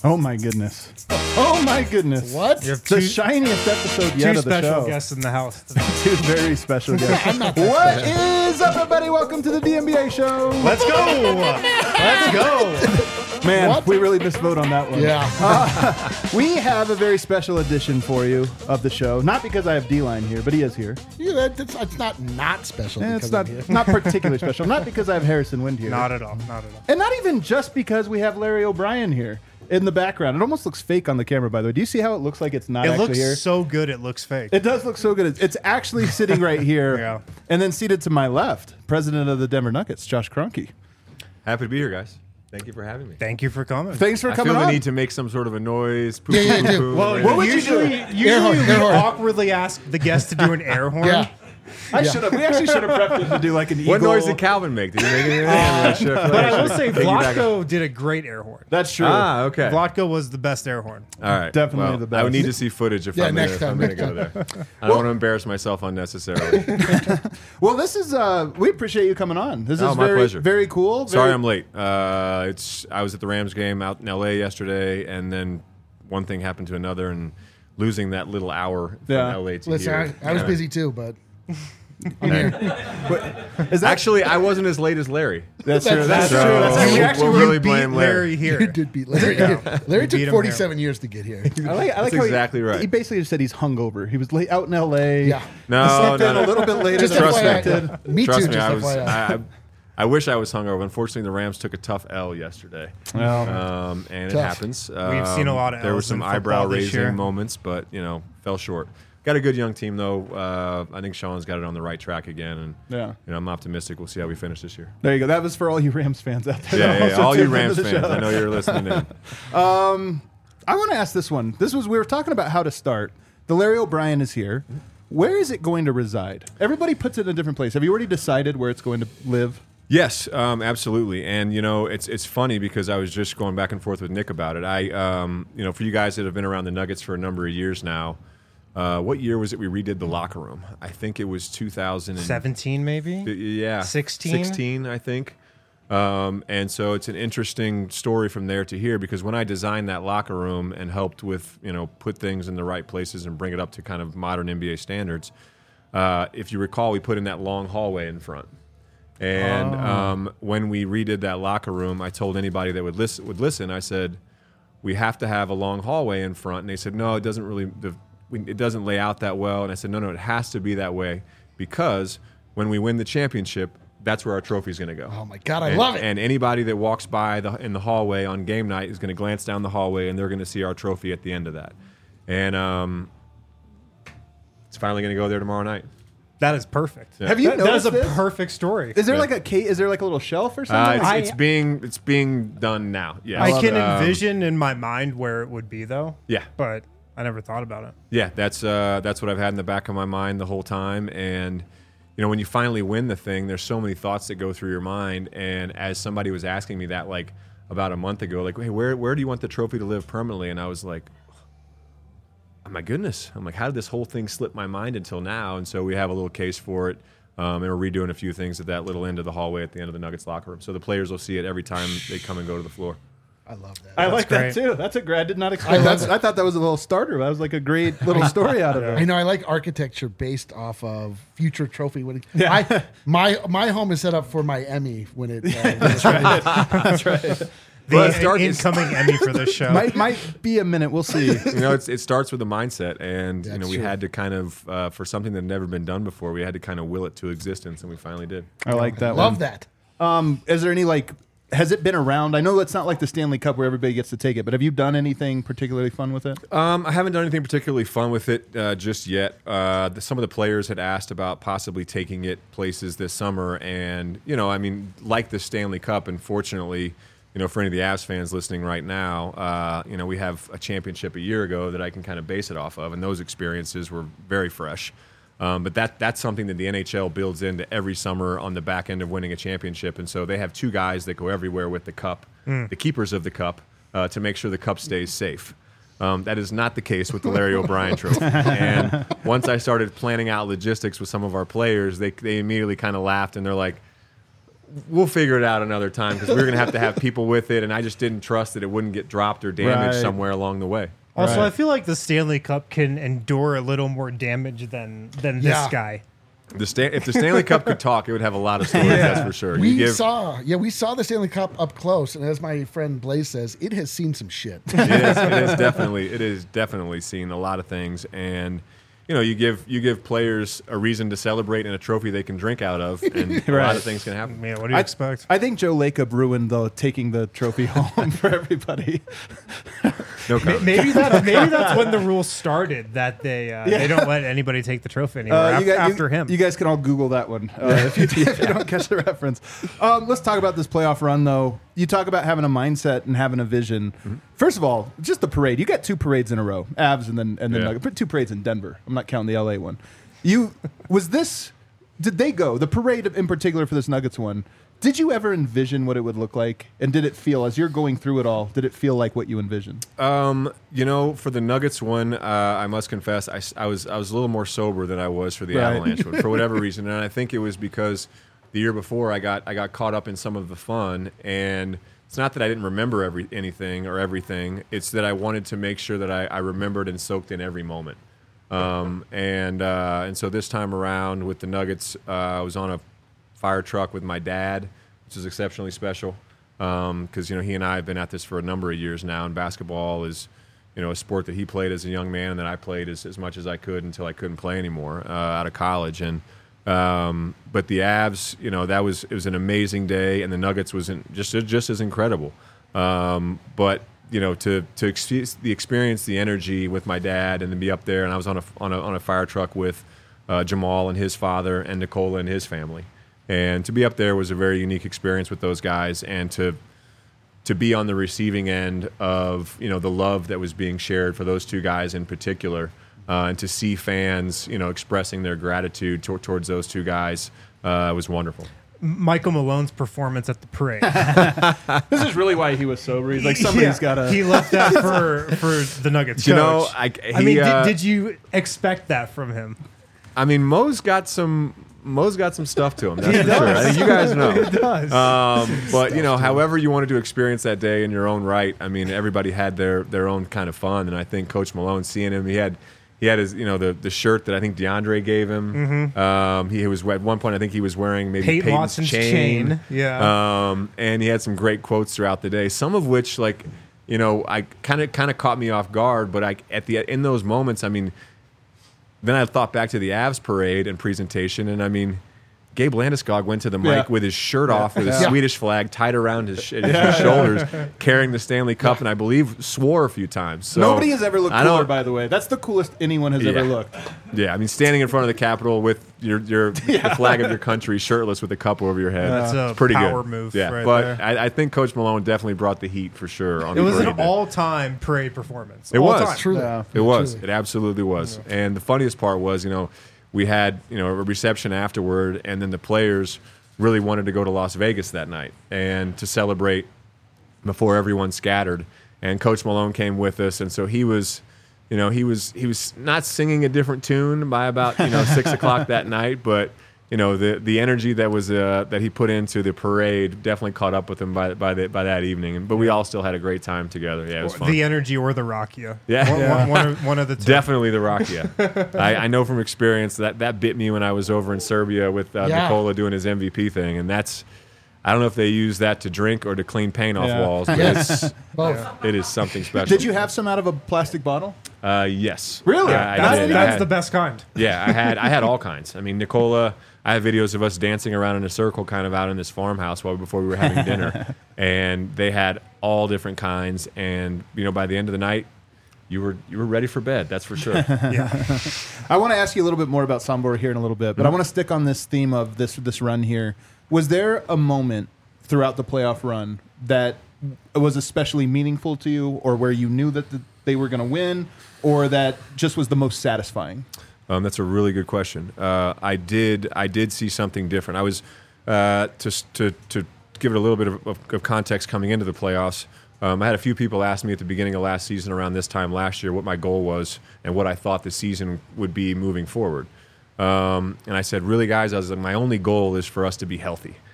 Oh my goodness. Oh my goodness. What? You have The two, shiniest episode yet two of the special show. guests in the house today. Two very special guests. I'm not that What special. is up, everybody? Welcome to the DNBA show. Let's go! Let's go! Man, What? we really missed vote on that one. Yeah. We have a very special edition for you of the show. Not because I have D-Line here, but he is here. Yeah, it's not special. And it's because not I'm here. not particularly special. Not because I have Harrison Wind here. Not at all. Not at all. And not even just because we have Larry O'Brien here in the background. It almost looks fake on the camera, by the way. Do you see how it looks like it's not It actually looks here? so good. It looks fake. It does look so good. It's actually sitting right here. Yeah. And then seated to my left, president of the Denver Nuggets, Josh Kroenke. Happy to be here, guys. Thank you for having me. Thank you for coming. Thanks for I coming feel the on. need to make some sort of a noise. Poo, Yeah, poo, you do. poo, Well, right? What would you usually we horn. awkwardly ask the guest to do an air horn. Yeah. I should have. We actually should have prepped him to do like an eagle. What noise did Calvin make? Did he make anything? But I will say Vlatko did a great air horn. That's true. Ah, okay. Vlatko was the best air horn. All right. Definitely well, the best. I would need to see footage if Yeah, I'm next going to time. go there. I don't want to embarrass myself unnecessarily. Well, this is. We appreciate you coming on. This Oh, is my very, pleasure. very cool. Sorry very- I'm late. I was at the Rams game out in L.A. yesterday, and then one thing happened to another, and losing that little hour from Yeah. L.A. to Listen, here. I was Yeah. busy too, but Is that Actually, I wasn't as late as Larry. That's true. That's So true. That's true. We we'll, actually we'll really beat blame Larry. you here. did beat Larry. Larry You beat took him 47 years to get here. I like That's how exactly right. He basically just said he's hungover. He was late out in L.A. Yeah. No, Slept no, in no. a little bit later Just than Trust me. expected. Me Trust too. me, Just I was. FYI. I wish I was hungover. Unfortunately, the Rams took a tough L yesterday, and it Tough. happens. We've seen a lot of There were Ls some in football eyebrow this year. raising moments, but fell short. Got a good young team though. I think Sean's got it on the right track again, and Yeah. I'm optimistic. We'll see how we finish this year. There you go. That was for all you Rams fans out there. Yeah, Also all you tuned into Rams the fans. show. I know you're listening in. I want to ask this one. We were talking about how to start. The Larry O'Brien is here. Where is it going to reside? Everybody puts it in a different place. Have you already decided where it's going to live? Yes, absolutely. And it's funny because I was just going back and forth with Nick about it. For you guys that have been around the Nuggets for a number of years now, what year was it we redid the locker room? I think it was 2017. 17 maybe? Yeah, 16? 16, I think. And so it's an interesting story from there to here because when I designed that locker room and helped with put things in the right places and bring it up to kind of modern NBA standards, if you recall, we put in that long hallway in front. And when we redid that locker room, I told anybody that would listen. I said, we have to have a long hallway in front. And they said, no, it doesn't really. It doesn't lay out that well. And I said, no, it has to be that way because when we win the championship, that's where our trophy is going to go. Oh my God, I love it. And anybody that walks by in the hallway on game night is going to glance down the hallway and they're going to see our trophy at the end of that. And it's finally going to go there tomorrow night. That is perfect. Have you That is noticed a this? perfect story. Is there like a case? Is there like a little shelf or something? It's being done now. Yeah, I can envision in my mind where it would be though. Yeah. But I never thought about it. Yeah, that's what I've had in the back of my mind the whole time. And when you finally win the thing, there's so many thoughts that go through your mind. And as somebody was asking me that like about a month ago, like, hey, where do you want the trophy to live permanently? And I was like, oh my goodness. I'm like, how did this whole thing slip my mind until now? And so we have a little case for it. And we're redoing a few things at that little end of the hallway at the end of the Nuggets locker room. So the players will see it every time they come and go to the floor. I love that. I like great. that too. That's a great. I did not expect I love that. it. I thought that was a little starter. That was like a great little story out of it. I know I like architecture based off of future trophy winning. Yeah. My home is set up for my Emmy when it. That's right. The Well, it started- incoming Emmy for this show. might be a minute. We'll see. It starts with a mindset, and That's we true. had to kind of for something that had never been done before, we had to kind of will it to existence, and we finally did. I like that. Love one. that. Is there any has it been around? I know it's not like the Stanley Cup where everybody gets to take it, but have you done anything particularly fun with it? I haven't done anything particularly fun with it just yet. Some of the players had asked about possibly taking it places this summer, and like the Stanley Cup, unfortunately, for any of the Avs fans listening right now, we have a championship a year ago that I can kind of base it off of, and those experiences were very fresh. But that's something that the NHL builds into every summer on the back end of winning a championship. And so they have two guys that go everywhere with the cup, the keepers of the cup, to make sure the cup stays safe. That is not the case with the Larry O'Brien trophy. And once I started planning out logistics with some of our players, they immediately kind of laughed and they're like, we'll figure it out another time because we were going to have people with it, and I just didn't trust that it wouldn't get dropped or damaged Right. somewhere along the way. Also, Right. I feel like the Stanley Cup can endure a little more damage than this Yeah. guy. If the Stanley Cup could talk, it would have a lot of stories. That's for sure. We saw the Stanley Cup up close, and as my friend Blaze says, it has seen some shit. it is definitely seen a lot of things, and you give players a reason to celebrate and a trophy they can drink out of, and a lot Right. of things can happen. Man, what do you expect? I think Joe Lacob ruined taking the trophy home for everybody. No comment. Maybe that's when the rule started that they don't let anybody take the trophy anymore after him. You guys can all Google that one if you don't catch the reference. Let's talk about this playoff run, though. You talk about having a mindset and having a vision. Mm-hmm. First of all, just the parade. You got 2 parades in a row, Avs and then Yeah. Nuggets. But 2 parades in Denver. I'm not counting the LA one. Did they go the parade in particular for this Nuggets one? Did you ever envision what it would look like? And did it feel, as you're going through it all, did it feel like what you envisioned? For the Nuggets one, I must confess, I was a little more sober than I was for the Right. Avalanche one, for whatever reason, and I think it was because the year before I got caught up in some of the fun, and it's not that I didn't remember anything or everything. It's that I wanted to make sure that I remembered and soaked in every moment. And so this time around with the Nuggets, I was on a fire truck with my dad, which is exceptionally special because he and I have been at this for a number of years now, and basketball is a sport that he played as a young man and that I played as much as I could until I couldn't play anymore out of college. And but the Avs, it was an amazing day, and the Nuggets was just as incredible. But to experience the energy with my dad and then be up there, and I was on a fire truck with Jamal and his father and Nikola and his family. And to be up there was a very unique experience with those guys, and to be on the receiving end of the love that was being shared for those 2 guys in particular, and to see fans expressing their gratitude towards those 2 guys was wonderful. Michael Malone's performance at the parade. This is really why he was sober. He's like, somebody's got to. He left that for the Nuggets coach. Did you expect that from him? I mean, Mo's got some stuff to him. That's for sure. I think you guys know. He does. But however you wanted to experience that day in your own right. I mean, everybody had their own kind of fun, and I think Coach Malone, seeing him, he had his the shirt that I think DeAndre gave him. Mm-hmm. He was at one point I think he was wearing maybe Peyton Peyton's Watson's chain. Yeah. And he had some great quotes throughout the day. Some of which I kind of caught me off guard. But in those moments, I mean. Then I thought back to the Avs parade and presentation, and I mean, Gabe Landeskog went to the mic with his shirt off, with a Swedish flag tied around his shoulders, carrying the Stanley Cup, and I believe swore a few times. So Nobody has ever looked cooler, by the way. That's the coolest anyone has ever looked. Yeah, I mean, standing in front of the Capitol with the flag of your country, shirtless with a cup over your head. That's a pretty power good. move. Yeah, right but there. I think Coach Malone definitely brought the heat for sure. On It was the an parade day. all-time parade performance. It All was. time. Truly. Yeah. It was. Truly. It absolutely was. Yeah. And the funniest part was, we had, a reception afterward, and then the players really wanted to go to Las Vegas that night and to celebrate before everyone scattered. And Coach Malone came with us, and so he was not singing a different tune by about 6 o'clock that night, but the energy that was that he put into the parade definitely caught up with him by that evening. But we all still had a great time together. Yeah, it was fun. The energy or the Rakia. Yeah. One of the two. Definitely the Rakia. I know from experience that bit me when I was over in Serbia with Nikola doing his MVP thing, and that's. I don't know if they use that to drink or to clean paint off walls, but it is something special. Did you have some out of a plastic bottle? Yes. Really? I did. That's the best kind. Yeah, I had all kinds. I mean, Nikola, I have videos of us dancing around in a circle kind of out in this farmhouse before we were having dinner, and they had all different kinds, and by the end of the night, you were ready for bed, that's for sure. I want to ask you a little bit more about Sombor here in a little bit, but I want to stick on this theme of this run here. Was there a moment throughout the playoff run that was especially meaningful to you, or where you knew that they were going to win, or that just was the most satisfying? That's a really good question. I did see something different. I was to give it a little bit of context coming into the playoffs. I had a few people ask me at the beginning of last season, around this time last year, what my goal was and what I thought the season would be moving forward. And I said, really, guys, I was like, my only goal is for us to be healthy.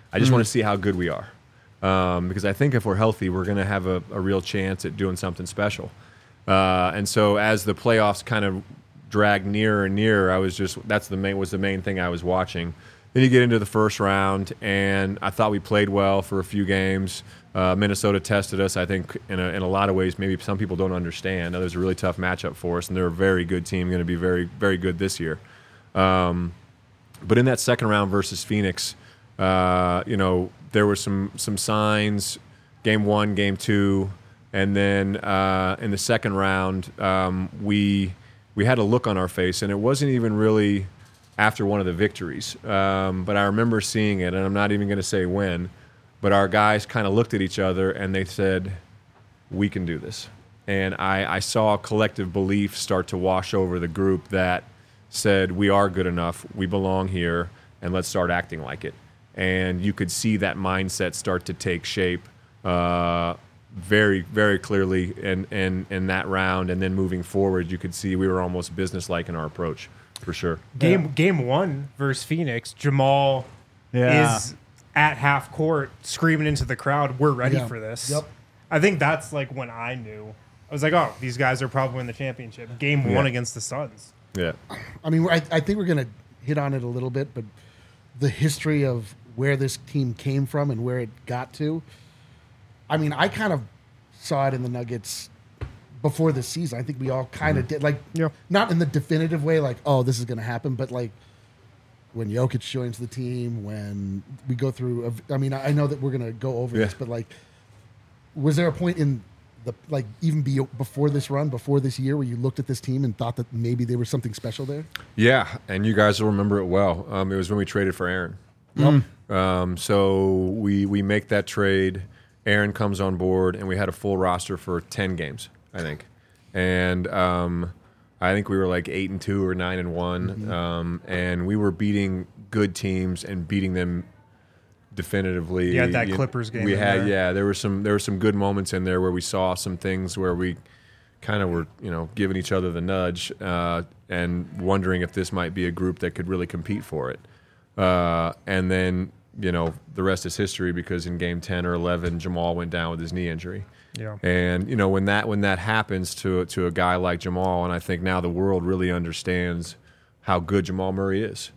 I just want to see how good we are. Because I think if we're healthy, we're going to have a real chance at doing something special. And so as the playoffs kind of dragged nearer and nearer, was the main thing I was watching. Then you get into the first round, and I thought we played well for a few games. Minnesota tested us, I think, in a lot of ways. Maybe some people don't understand. It was a really tough matchup for us, and they're a very good team, going to be very, very good this year. But in that second round versus Phoenix, there were some signs, game 1, game 2, and then in the second round, we had a look on our face, and it wasn't even really after one of the victories. But I remember seeing it, and I'm not even going to say when, but our guys kind of looked at each other, and they said, we can do this. And I saw a collective belief start to wash over the group that said, we are good enough, we belong here, and let's start acting like it. And you could see that mindset start to take shape very, very clearly in that round. And then moving forward, you could see we were almost businesslike in our approach, for sure. Game 1 versus Phoenix, Jamal is at half court screaming into the crowd, we're ready for this. Yep. I think that's like when I knew. I was like, oh, these guys are probably in the championship. Game 1 against the Suns. Yeah. I mean, I think we're going to hit on it a little bit, but the history of where this team came from and where it got to. I mean, I kind of saw it in the Nuggets before the season. I think we all kind of did. Like, not in the definitive way, like, oh, this is going to happen, but like when Jokic joins the team, when we go through. I mean, I know that we're going to go over this, but like, was there a point in the even before this run, before this year, where you looked at this team and thought that maybe there was something special there? Yeah, and you guys will remember it well. It was when we traded for Aaron. So we make that trade. Aaron comes on board, and we had a full roster for 10 games, I think. And I think we were like 8-2 or 9-1, and we were beating good teams and beating them definitively. You had that Clippers game. There were some good moments in there where we saw some things where we kind of were, giving each other the nudge and wondering if this might be a group that could really compete for it. And then, the rest is history, because in game 10 or 11, Jamal went down with his knee injury. Yeah. And, when that happens to a guy like Jamal, and I think now the world really understands how good Jamal Murray is,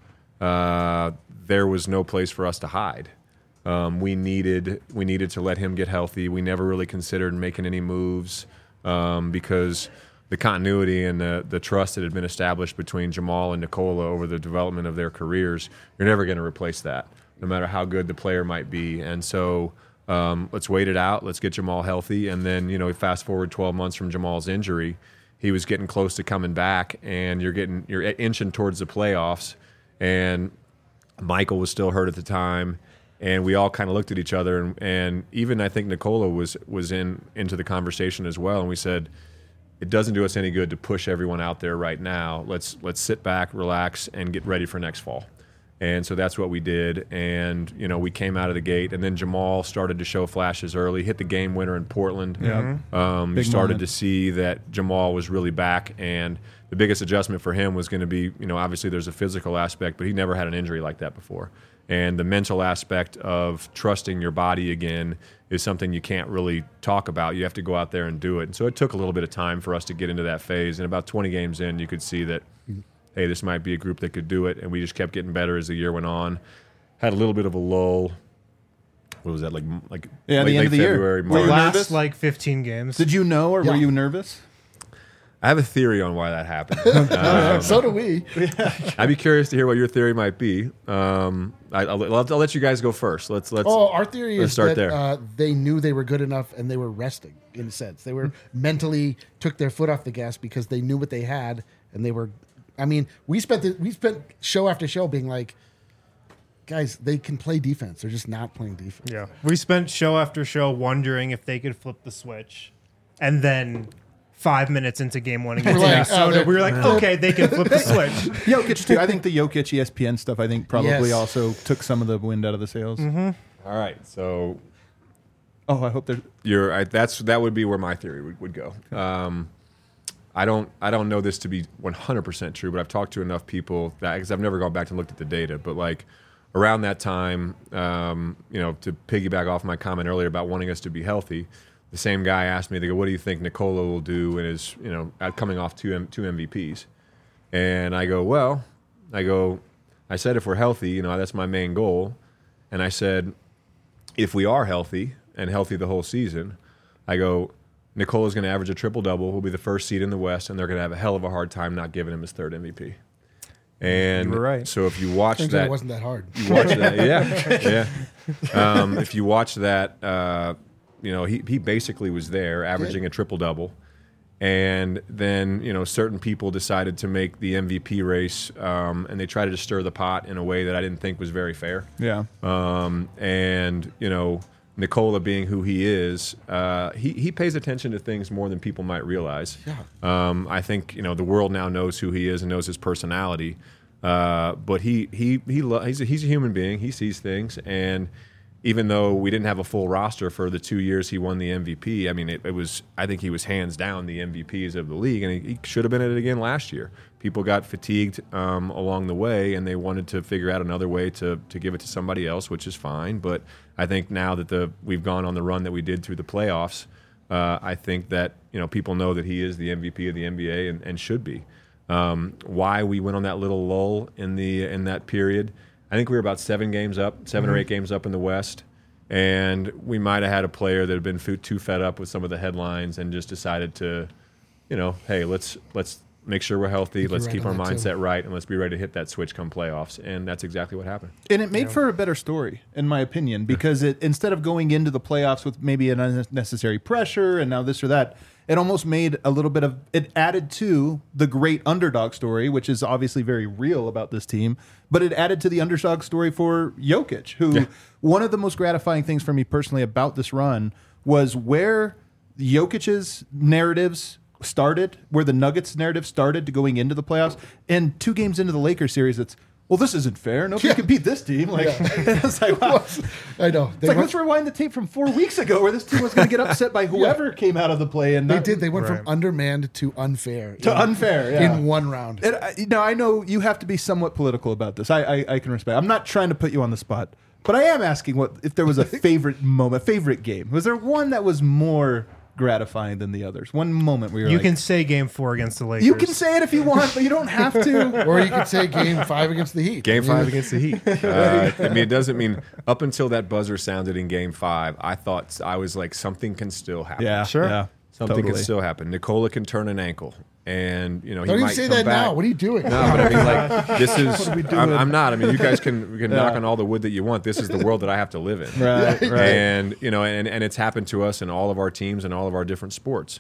there was no place for us to hide. We needed to let him get healthy. We never really considered making any moves because the continuity and the trust that had been established between Jamal and Nikola over the development of their careers, you're never going to replace that, no matter how good the player might be. And so let's wait it out. Let's get Jamal healthy. And then, fast forward 12 months from Jamal's injury, he was getting close to coming back, and you're inching towards the playoffs. And Michael was still hurt at the time. And we all kind of looked at each other, and even I think Nikola was into the conversation as well. And we said, it doesn't do us any good to push everyone out there right now. Let's sit back, relax, and get ready for next fall. And so that's what we did. And, we came out of the gate. And then Jamal started to show flashes early, hit the game winner in Portland. Yeah. You started to see that Jamal was really back. And the biggest adjustment for him was going to be, obviously there's a physical aspect, but he never had an injury like that before. And the mental aspect of trusting your body again is something you can't really talk about. You have to go out there and do it. And so it took a little bit of time for us to get into that phase. And about 20 games in, you could see that, hey, this might be a group that could do it. And we just kept getting better as the year went on. Had a little bit of a lull. What was that, like the end of the February, year? March. Were you nervous? 15 games. Did you know, or were you nervous? I have a theory on why that happened. So do we. I'd be curious to hear what your theory might be. I'll let you guys go first. Let's. Our theory is start that there. They knew they were good enough, and they were resting, in a sense. They were mentally took their foot off the gas because they knew what they had, and they were. I mean, we spent show after show being like, guys, they can play defense. They're just not playing defense. Yeah, we spent show after show wondering if they could flip the switch, and then 5 minutes into game 1 against Minnesota, we were like, okay, they can flip the switch. Jokic too. I think the Jokic ESPN stuff, I think probably also took some of the wind out of the sails. All right, so I hope there's. That would be where my theory would go. I don't know this to be 100% true, but I've talked to enough people that, because I've never gone back and looked at the data, but like around that time, to piggyback off my comment earlier about wanting us to be healthy, the same guy asked me, they go, what do you think Nikola will do in his, coming off two MVPs? And I go, I said, if we're healthy, that's my main goal. And I said, if we are healthy and healthy the whole season, I go, Nikola's going to average a triple-double. We'll be the first seed in the West, and they're going to have a hell of a hard time not giving him his third MVP. And you were right. So if you watch that, it wasn't that hard. You watch that, yeah. If you watch that, he basically was there, averaging a triple-double. And then, certain people decided to make the MVP race, and they tried to stir the pot in a way that I didn't think was very fair. Yeah. Nikola being who he is, he pays attention to things more than people might realize. Yeah. I think, the world now knows who he is and knows his personality. But he's a human being. He sees things, and even though we didn't have a full roster for the 2 years he won the MVP, I mean, I think he was hands down the MVPs of the league, and he should have been at it again last year. People got fatigued along the way, and they wanted to figure out another way to give it to somebody else, which is fine. But I think now that we've gone on the run that we did through the playoffs, I think that people know that he is the MVP of the NBA and should be. Why we went on that little lull in that period, I think we were about 7 or 8 games up in the West, and we might have had a player that had been too fed up with some of the headlines and just decided to, hey, let's make sure we're healthy, let's keep our mindset right, and let's be ready to hit that switch come playoffs. And that's exactly what happened. And it made for a better story, in my opinion, because instead of going into the playoffs with maybe an unnecessary pressure and now this or that, it almost made a little bit of it added to the great underdog story, which is obviously very real about this team. But it added to the underdog story for Jokic, who one of the most gratifying things for me personally about this run was where Jokic's narratives started, where the Nuggets narrative started to going into the playoffs, and 2 games into the Lakers series, it's, well, this isn't fair. Nobody can beat this team. It's like, wow. I know. It's like, let's rewind the tape from 4 weeks ago where this team was going to get upset by whoever came out of the play. And they did. They went from undermanned to unfair. In one round. I know you have to be somewhat political about this. I can respect. I'm not trying to put you on the spot, but I am asking if there was a favorite moment, favorite game. Was there one that was more gratifying than the others? One moment where you can say Game 4 against the Lakers. You can say it if you want, but you don't have to. Or you could say Game 5 against the Heat. Game 5 against the Heat. It doesn't mean up until that buzzer sounded in Game 5, I was like, something can still happen. Yeah, sure. Yeah, something can still happen. Nikola can turn an ankle. And he don't might even say that back. Now. What are you doing? No, but I mean, like, this is. I'm not. I mean, you guys can knock on all the wood that you want. This is the world that I have to live in. Right. And and it's happened to us in all of our teams and all of our different sports.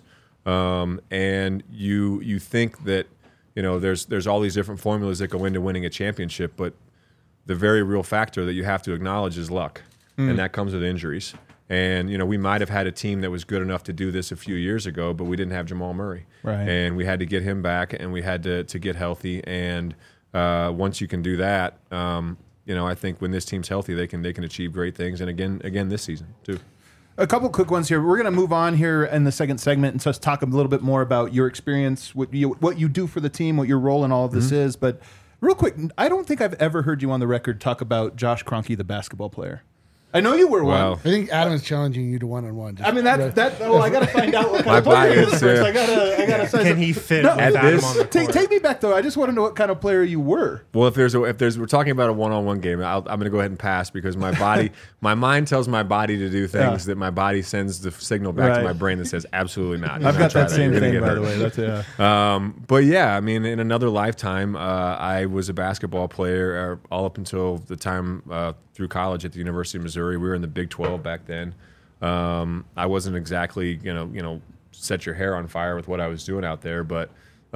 And you think that there's all these different formulas that go into winning a championship, but the very real factor that you have to acknowledge is luck, and that comes with injuries. And, we might have had a team that was good enough to do this a few years ago, but we didn't have Jamal Murray. Right. And we had to get him back, and we had to get healthy. And once you can do that, I think when this team's healthy, they can achieve great things. And again this season, too. A couple quick ones here. We're going to move on here in the second segment and just talk a little bit more about your experience, what you do for the team, what your role in all of this is. But real quick, I don't think I've ever heard you on the record talk about Josh Kroenke, the basketball player. I know you were one. I think Adam is challenging you to one-on-one. I mean, I got to find out what kind of player he is first. I got to. Can he fit with Adam on the court? Take me back though. I just want to know what kind of player you were. Well, if we're talking about a one-on-one game, I'm going to go ahead and pass because my mind tells my body to do things that my body sends the signal back to my brain that says absolutely not. I've got that same thing, by the way. That's But yeah, I mean, in another lifetime, I was a basketball player all up until the time through college at the University of Missouri. We were in the Big 12 back then. I wasn't exactly, set your hair on fire with what I was doing out there, but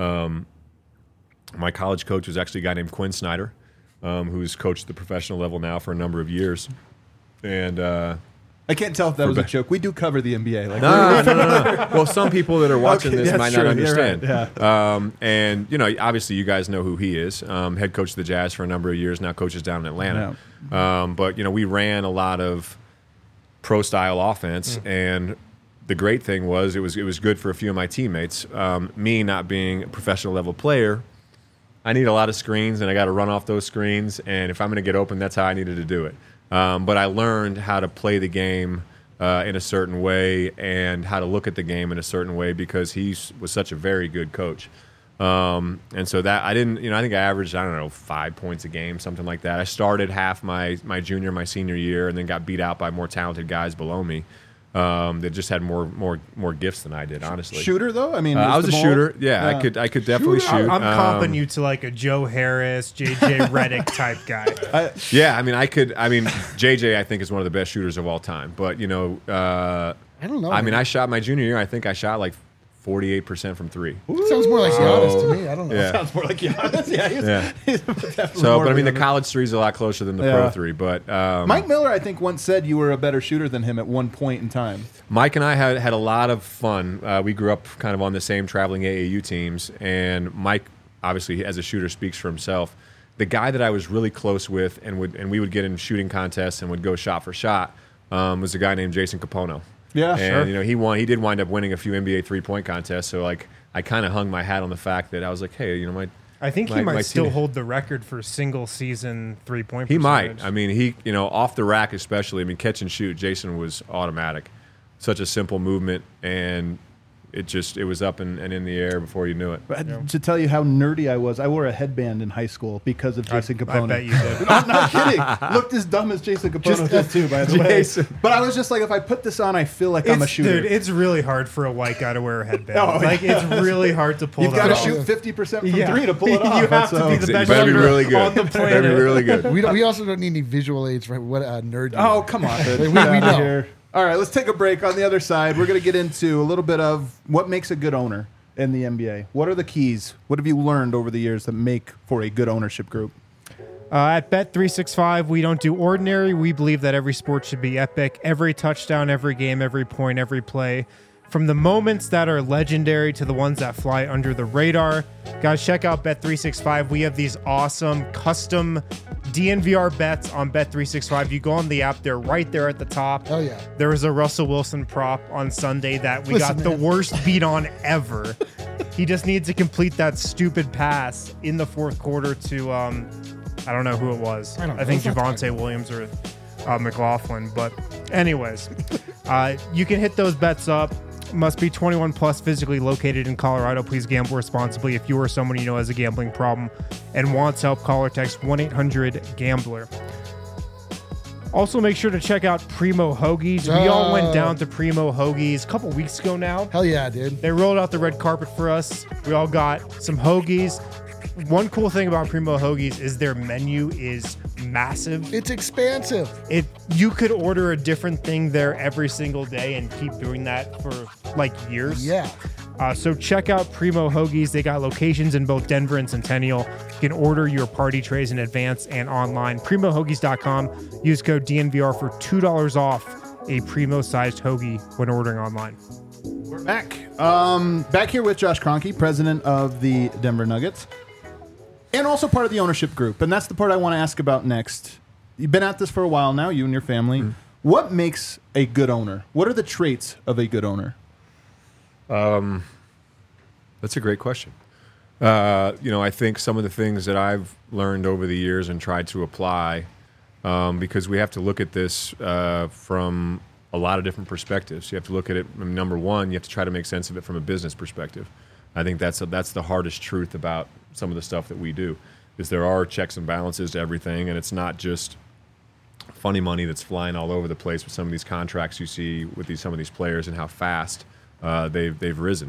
my college coach was actually a guy named Quinn Snyder, who's coached at the professional level now for a number of years. And I can't tell if that was a joke. We do cover the NBA. Like, no. Well, some people that are watching this might not understand. Right. Yeah. And, obviously you guys know who he is. Head coach of the Jazz for a number of years, now coaches down in Atlanta. Yeah. But, we ran a lot of pro-style offense, and the great thing was it was good for a few of my teammates. Me not being a professional level player, I need a lot of screens, and I got to run off those screens. And if I'm going to get open, that's how I needed to do it. But I learned how to play the game in a certain way and how to look at the game in a certain way because he was such a very good coach. And so that I didn't, I think I averaged, 5 points a game, something like that. I started half my junior, my senior year, and then got beat out by more talented guys below me. That just had more gifts than I did, honestly. Shooter though, I mean, I was a shooter. Yeah, I could definitely shoot. I'm comping you to like a Joe Harris, JJ Redick type guy. JJ I think is one of the best shooters of all time. But I don't know. I shot my junior year. I think I shot like 48% from three. Sounds more like Giannis to me. I don't know. Yeah. Sounds more like Giannis. Yeah, he's definitely so, more but of the college three is a lot closer than the pro three. But Mike Miller, I think, once said you were a better shooter than him at one point in time. Mike and I had a lot of fun. We grew up kind of on the same traveling AAU teams, and Mike, obviously, as a shooter, speaks for himself. The guy that I was really close with, and we would get in shooting contests and would go shot for shot, was a guy named Jason Capono. Yeah, and sure. He won. He did wind up winning a few NBA 3-point contests. So like, I kind of hung my hat on the fact that I was like, hey, I think he might still hold the record for single season 3-point. He might. Off the rack especially. Catch and shoot. Jason was automatic. Such a simple movement, and it was up and in the air before you knew it. But to tell you how nerdy I was, I wore a headband in high school because of Jason Capono. I bet you did. I'm not kidding. Looked as dumb as Jason Capono did too, by the way. But I was just like, if I put this on, I feel like I'm a shooter. Dude, it's really hard for a white guy to wear a headband. It's really hard to pull it off. You've got to shoot 50% from three to pull it off. You have to be the best shooter really good. On the planet. Better be really good. We also don't need any visual aids for what a nerd. Oh, come on. we know. Here. All right, let's take a break. On the other side, we're going to get into a little bit of what makes a good owner in the NBA. What are the keys? What have you learned over the years that make for a good ownership group? At Bet365, we don't do ordinary. We believe that every sport should be epic. Every touchdown, every game, every point, every play. From the moments that are legendary to the ones that fly under the radar. Guys, check out Bet365. We have these awesome custom DNVR bets on Bet365. You go on the app, they're right there at the top. Oh, yeah. There was a Russell Wilson prop on Sunday that we got the worst beat on ever. He just needs to complete that stupid pass in the fourth quarter to, I don't know who it was. I think Javonte Williams or McLaughlin. But anyways, you can hit those bets up. Must be 21 plus, physically located in Colorado. Please gamble responsibly. If you or someone you know has a gambling problem and wants help, call or text 1-800-GAMBLER. Also, make sure to check out Primo Hoagies. We all went down to Primo Hoagies a couple weeks ago now. Hell yeah, dude. They rolled out the red carpet for us. We all got some hoagies. One cool thing about Primo Hoagies is their menu is massive. It's expansive. You could order a different thing there every single day and keep doing that for like years. Yeah. So check out Primo Hoagies. They got locations in both Denver and Centennial. You can order your party trays in advance and online. PrimoHoagies.com. Use code DNVR for $2 off a Primo-sized hoagie when ordering online. We're back. Back here with Josh Kroenke, president of the Denver Nuggets, and also part of the ownership group. And that's the part I want to ask about next. You've been at this for a while now, you and your family. Mm-hmm. What makes a good owner? What are the traits of a good owner? That's a great question. I think some of the things that I've learned over the years and tried to apply, because we have to look at this from a lot of different perspectives. You have to look at it, number one, you have to try to make sense of it from a business perspective. I think that's the hardest truth about some of the stuff that we do, is there are checks and balances to everything, and it's not just funny money that's flying all over the place with some of these contracts you see with some of these players and how fast they've risen.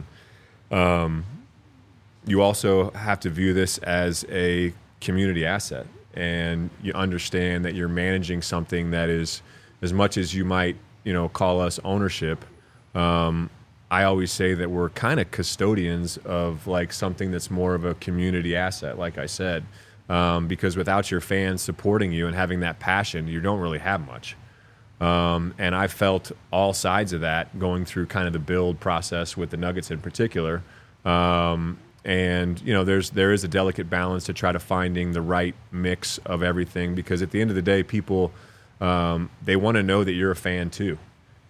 You also have to view this as a community asset, and you understand that you're managing something that is, as much as you might call us ownership, I always say that we're kind of custodians of like something that's more of a community asset, like I said, because without your fans supporting you and having that passion, you don't really have much. And I felt all sides of that going through kind of the build process with the Nuggets in particular. And there is a delicate balance to try to finding the right mix of everything, because at the end of the day, people they want to know that you're a fan too.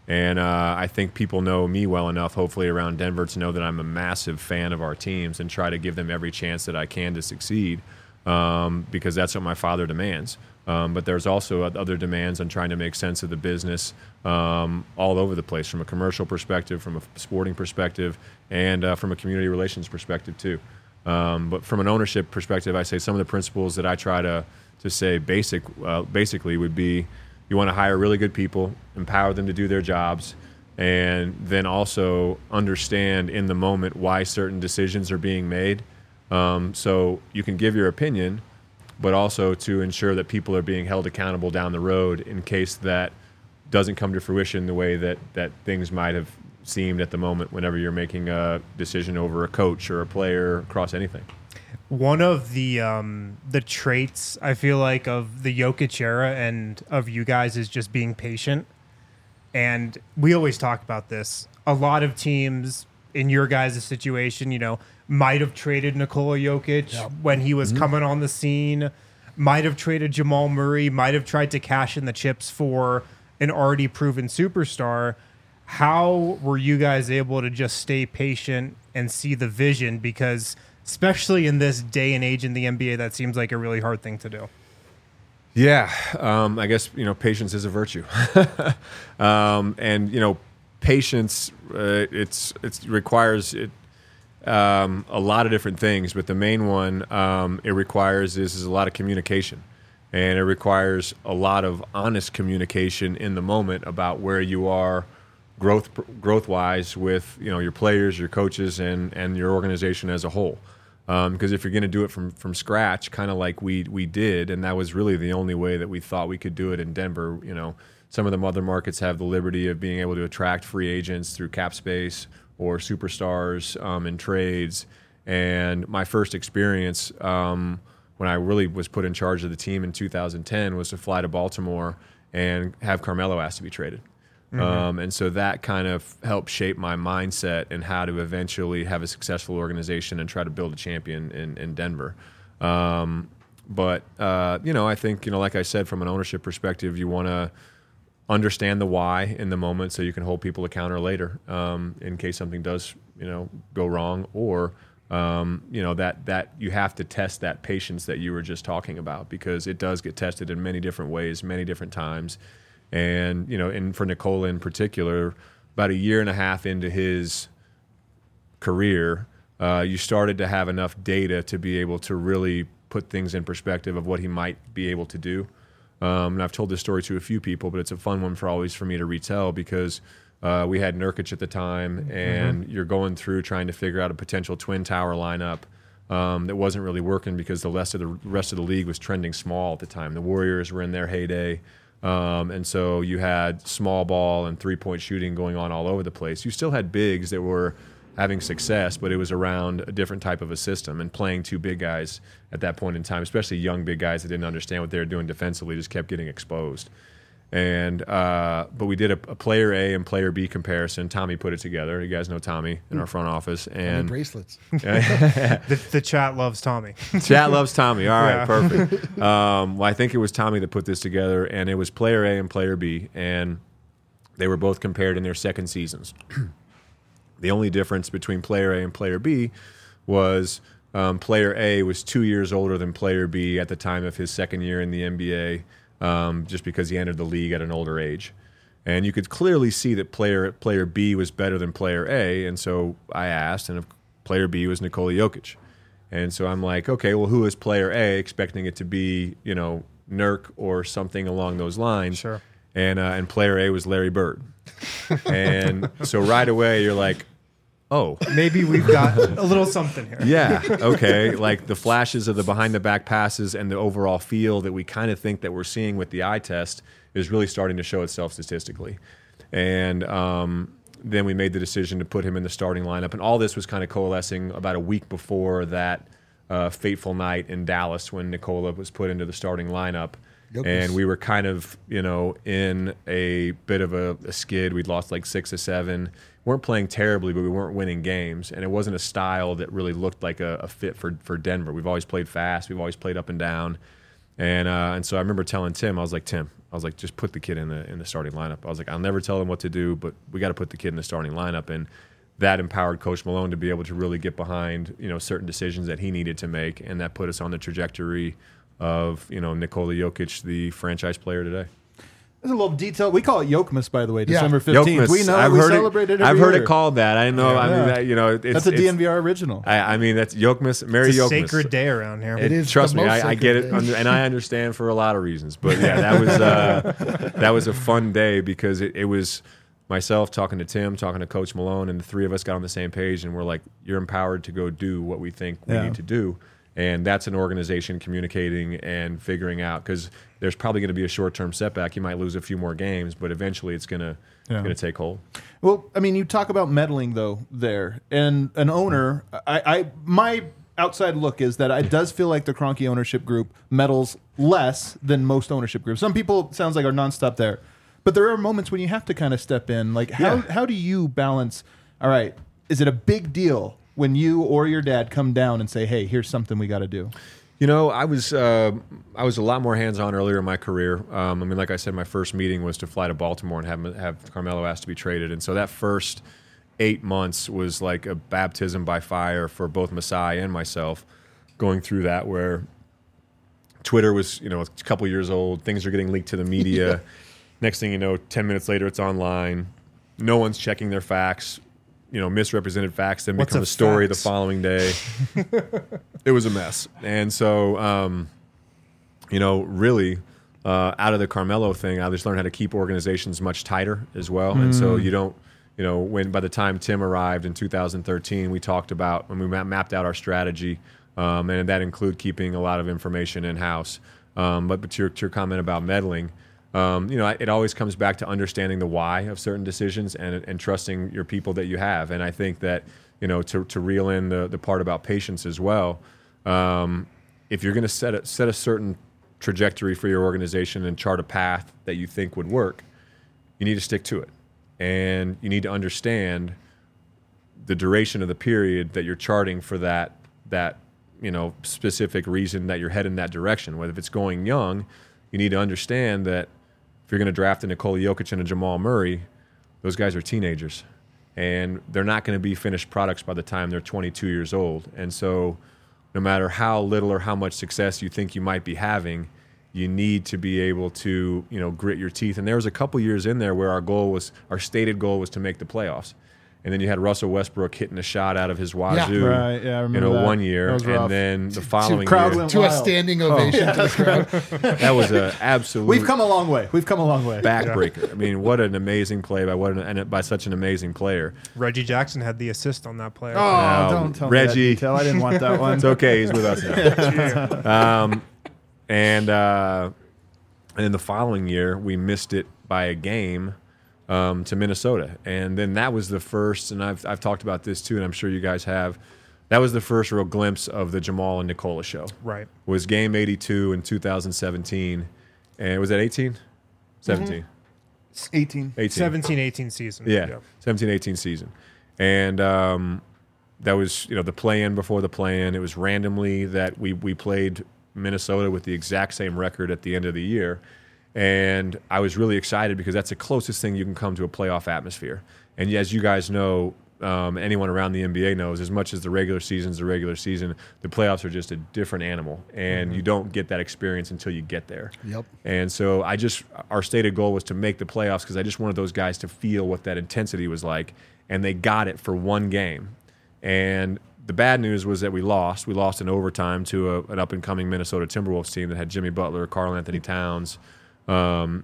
And I think people know me well enough, hopefully around Denver, to know that I'm a massive fan of our teams and try to give them every chance that I can to succeed, because that's what my father demands. But there's also other demands on trying to make sense of the business all over the place, from a commercial perspective, from a sporting perspective, and from a community relations perspective too. But from an ownership perspective, I say some of the principles that I try to say basically would be: you want to hire really good people, empower them to do their jobs, and then also understand in the moment why certain decisions are being made. So you can give your opinion, but also to ensure that people are being held accountable down the road in case that doesn't come to fruition the way that things might have seemed at the moment whenever you're making a decision over a coach or a player across anything. One of the traits I feel like of the Jokic era and of you guys is just being patient. And we always talk about this. A lot of teams in your guys' situation, you know, might have traded Nikola Jokic when he was coming on the scene, might have traded Jamal Murray, might have tried to cash in the chips for an already proven superstar. How were you guys able to just stay patient and see the vision? Because especially in this day and age in the NBA, that seems like a really hard thing to do. Yeah, I guess, you know, patience is a virtue. And, you know, patience, it requires a lot of different things, but the main one it requires is a lot of communication. And it requires a lot of honest communication in the moment about where you are growth-wise with, you know, your players, your coaches, and your organization as a whole. Because if you're going to do it from scratch, kind of like we did, and that was really the only way that we thought we could do it in Denver. You know, some of the other markets have the liberty of being able to attract free agents through cap space or superstars in trades. And my first experience when I really was put in charge of the team in 2010 was to fly to Baltimore and have Carmelo asked to be traded. And so that kind of helped shape my mindset and how to eventually have a successful organization and try to build a champion in Denver. But you know, I think, you know, like I said, from an ownership perspective, you want to understand the why in the moment so you can hold people accountable later in case something does, you know, go wrong, or you know, that you have to test that patience that you were just talking about, because it does get tested in many different ways, many different times. And, you know, and for Nikola in particular, about a year and a half into his career, you started to have enough data to be able to really put things in perspective of what he might be able to do. And I've told this story to a few people, but it's a fun one for me to retell, because we had Nurkic at the time, and you're going through trying to figure out a potential twin tower lineup that wasn't really working because the rest of the league was trending small at the time. The Warriors were in their heyday. And so you had small ball and three-point shooting going on all over the place. You still had bigs that were having success, but it was around a different type of a system, and playing two big guys at that point in time, especially young big guys that didn't understand what they were doing defensively, just kept getting exposed. And but we did a player A and player B comparison. Tommy put it together. You guys know Tommy in our front office. And bracelets. The chat loves Tommy. Chat loves Tommy. All right, perfect. Well, I think it was Tommy that put this together, and it was player A and player B, and they were both compared in their second seasons. The only difference between player A and player B was player A was 2 years older than player B at the time of his second year in the NBA. Just because he entered the league at an older age. And you could clearly see that player B was better than player A, and so I asked, and player B was Nikola Jokic. And so I'm like, okay, well, who is player A, expecting it to be, you know, Nurk or something along those lines. Sure. And player A was Larry Bird. And so right away you're like, oh, maybe we've got a little something here. Yeah, okay. Like the flashes of the behind-the-back passes and the overall feel that we kind of think that we're seeing with the eye test is really starting to show itself statistically. And then we made the decision to put him in the starting lineup. And all this was kind of coalescing about a week before that fateful night in Dallas when Nikola was put into the starting lineup. And we were kind of, you know, in a bit of a skid. We'd lost like 6 or 7. Weren't playing terribly, but we weren't winning games. And it wasn't a style that really looked like a fit for Denver. We've always played fast. We've always played up and down. And so I remember telling Tim, I was like, just put the kid in the starting lineup. I was like, I'll never tell him what to do, but we got to put the kid in the starting lineup. And that empowered Coach Malone to be able to really get behind, certain decisions that he needed to make, and that put us on the trajectory of, Nikola Jokic, the franchise player today. There's a little detail. We call it Yokmas, by the way, December 15th. Yokmas. We know we celebrate it every I've heard year. it called that. I know. Yeah. I mean, that's a DNVR original. I mean, that's Yokmas. Merry It's a Yokmas. sacred day around here. It is. Trust the me, most I get it, sacred day. and I understand for a lot of reasons. But yeah, that was a fun day because it was myself talking to Tim, talking to Coach Malone, and the three of us got on the same page, and we're like, "You're empowered to go do what we think we need to do." And that's an organization communicating and figuring out, because there's probably going to be a short-term setback. You might lose a few more games, but eventually it's going to take hold. Well, I mean, you talk about meddling though there, and an owner. My outside look is that it does feel like the Kroenke ownership group meddles less than most ownership groups. Some people, sounds like, are nonstop there, but there are moments when you have to kind of step in. Like, how do you balance? All right, is it a big deal when you or your dad come down and say, "Hey, here's something we got to do"? I was a lot more hands-on earlier in my career. I mean, like I said, my first meeting was to fly to Baltimore and have Carmelo asked to be traded, and so that first 8 months was like a baptism by fire for both Masai and myself, going through that, where Twitter was, a couple years old, things are getting leaked to the media. Next thing you know, 10 minutes later, it's online. No one's checking their facts. Misrepresented facts then become a story the following day. It was a mess. And so, really, out of the Carmelo thing, I just learned how to keep organizations much tighter as well. And so you don't, when by the time Tim arrived in 2013, we talked about, when we mapped out our strategy, and that included keeping a lot of information in-house. But to your comment about meddling, it always comes back to understanding the why of certain decisions and trusting your people that you have. And I think that, to reel in the part about patience as well, if you're going to set a certain trajectory for your organization and chart a path that you think would work, you need to stick to it. And you need to understand the duration of the period that you're charting for that specific reason that you're heading that direction. Whether if it's going young, you need to understand that if you're going to draft a Nikola Jokic and a Jamal Murray, those guys are teenagers, and they're not going to be finished products by the time they're 22 years old. And so no matter how little or how much success you think you might be having, you need to be able to, grit your teeth. And there was a couple years in there where our stated goal was to make the playoffs. And then you had Russell Westbrook hitting a shot out of his wazoo, Right, yeah, I remember that. 1 year, That was rough. and then the following crowd year, went To a wild. standing ovation to the crowd. that was an absolute We've come a long way. backbreaker. I mean, what an amazing play by such an amazing player. Reggie Jackson had the assist on that play. Oh, don't tell me that Reggie. detail. I didn't want that one. It's okay, he's with us now. And then the following year, we missed it by a game to Minnesota. And then that was the first, and I've talked about this too, and I'm sure you guys have, that was the first real glimpse of the Jamal and Nikola show. Right. Was game 82 in 2017. And was that 18? 17. 18. 17-18 season. Yeah, 17-18 season. And that was, the play-in before the play-in. It was randomly that we played Minnesota with the exact same record at the end of the year. And I was really excited because that's the closest thing you can come to a playoff atmosphere. And as you guys know, anyone around the NBA knows, as much as the regular season's the regular season, the playoffs are just a different animal. And you don't get that experience until you get there. Yep. And so our stated goal was to make the playoffs because I just wanted those guys to feel what that intensity was like. And they got it for one game. And the bad news was that we lost. We lost in overtime to an up-and-coming Minnesota Timberwolves team that had Jimmy Butler, Karl Anthony Towns, and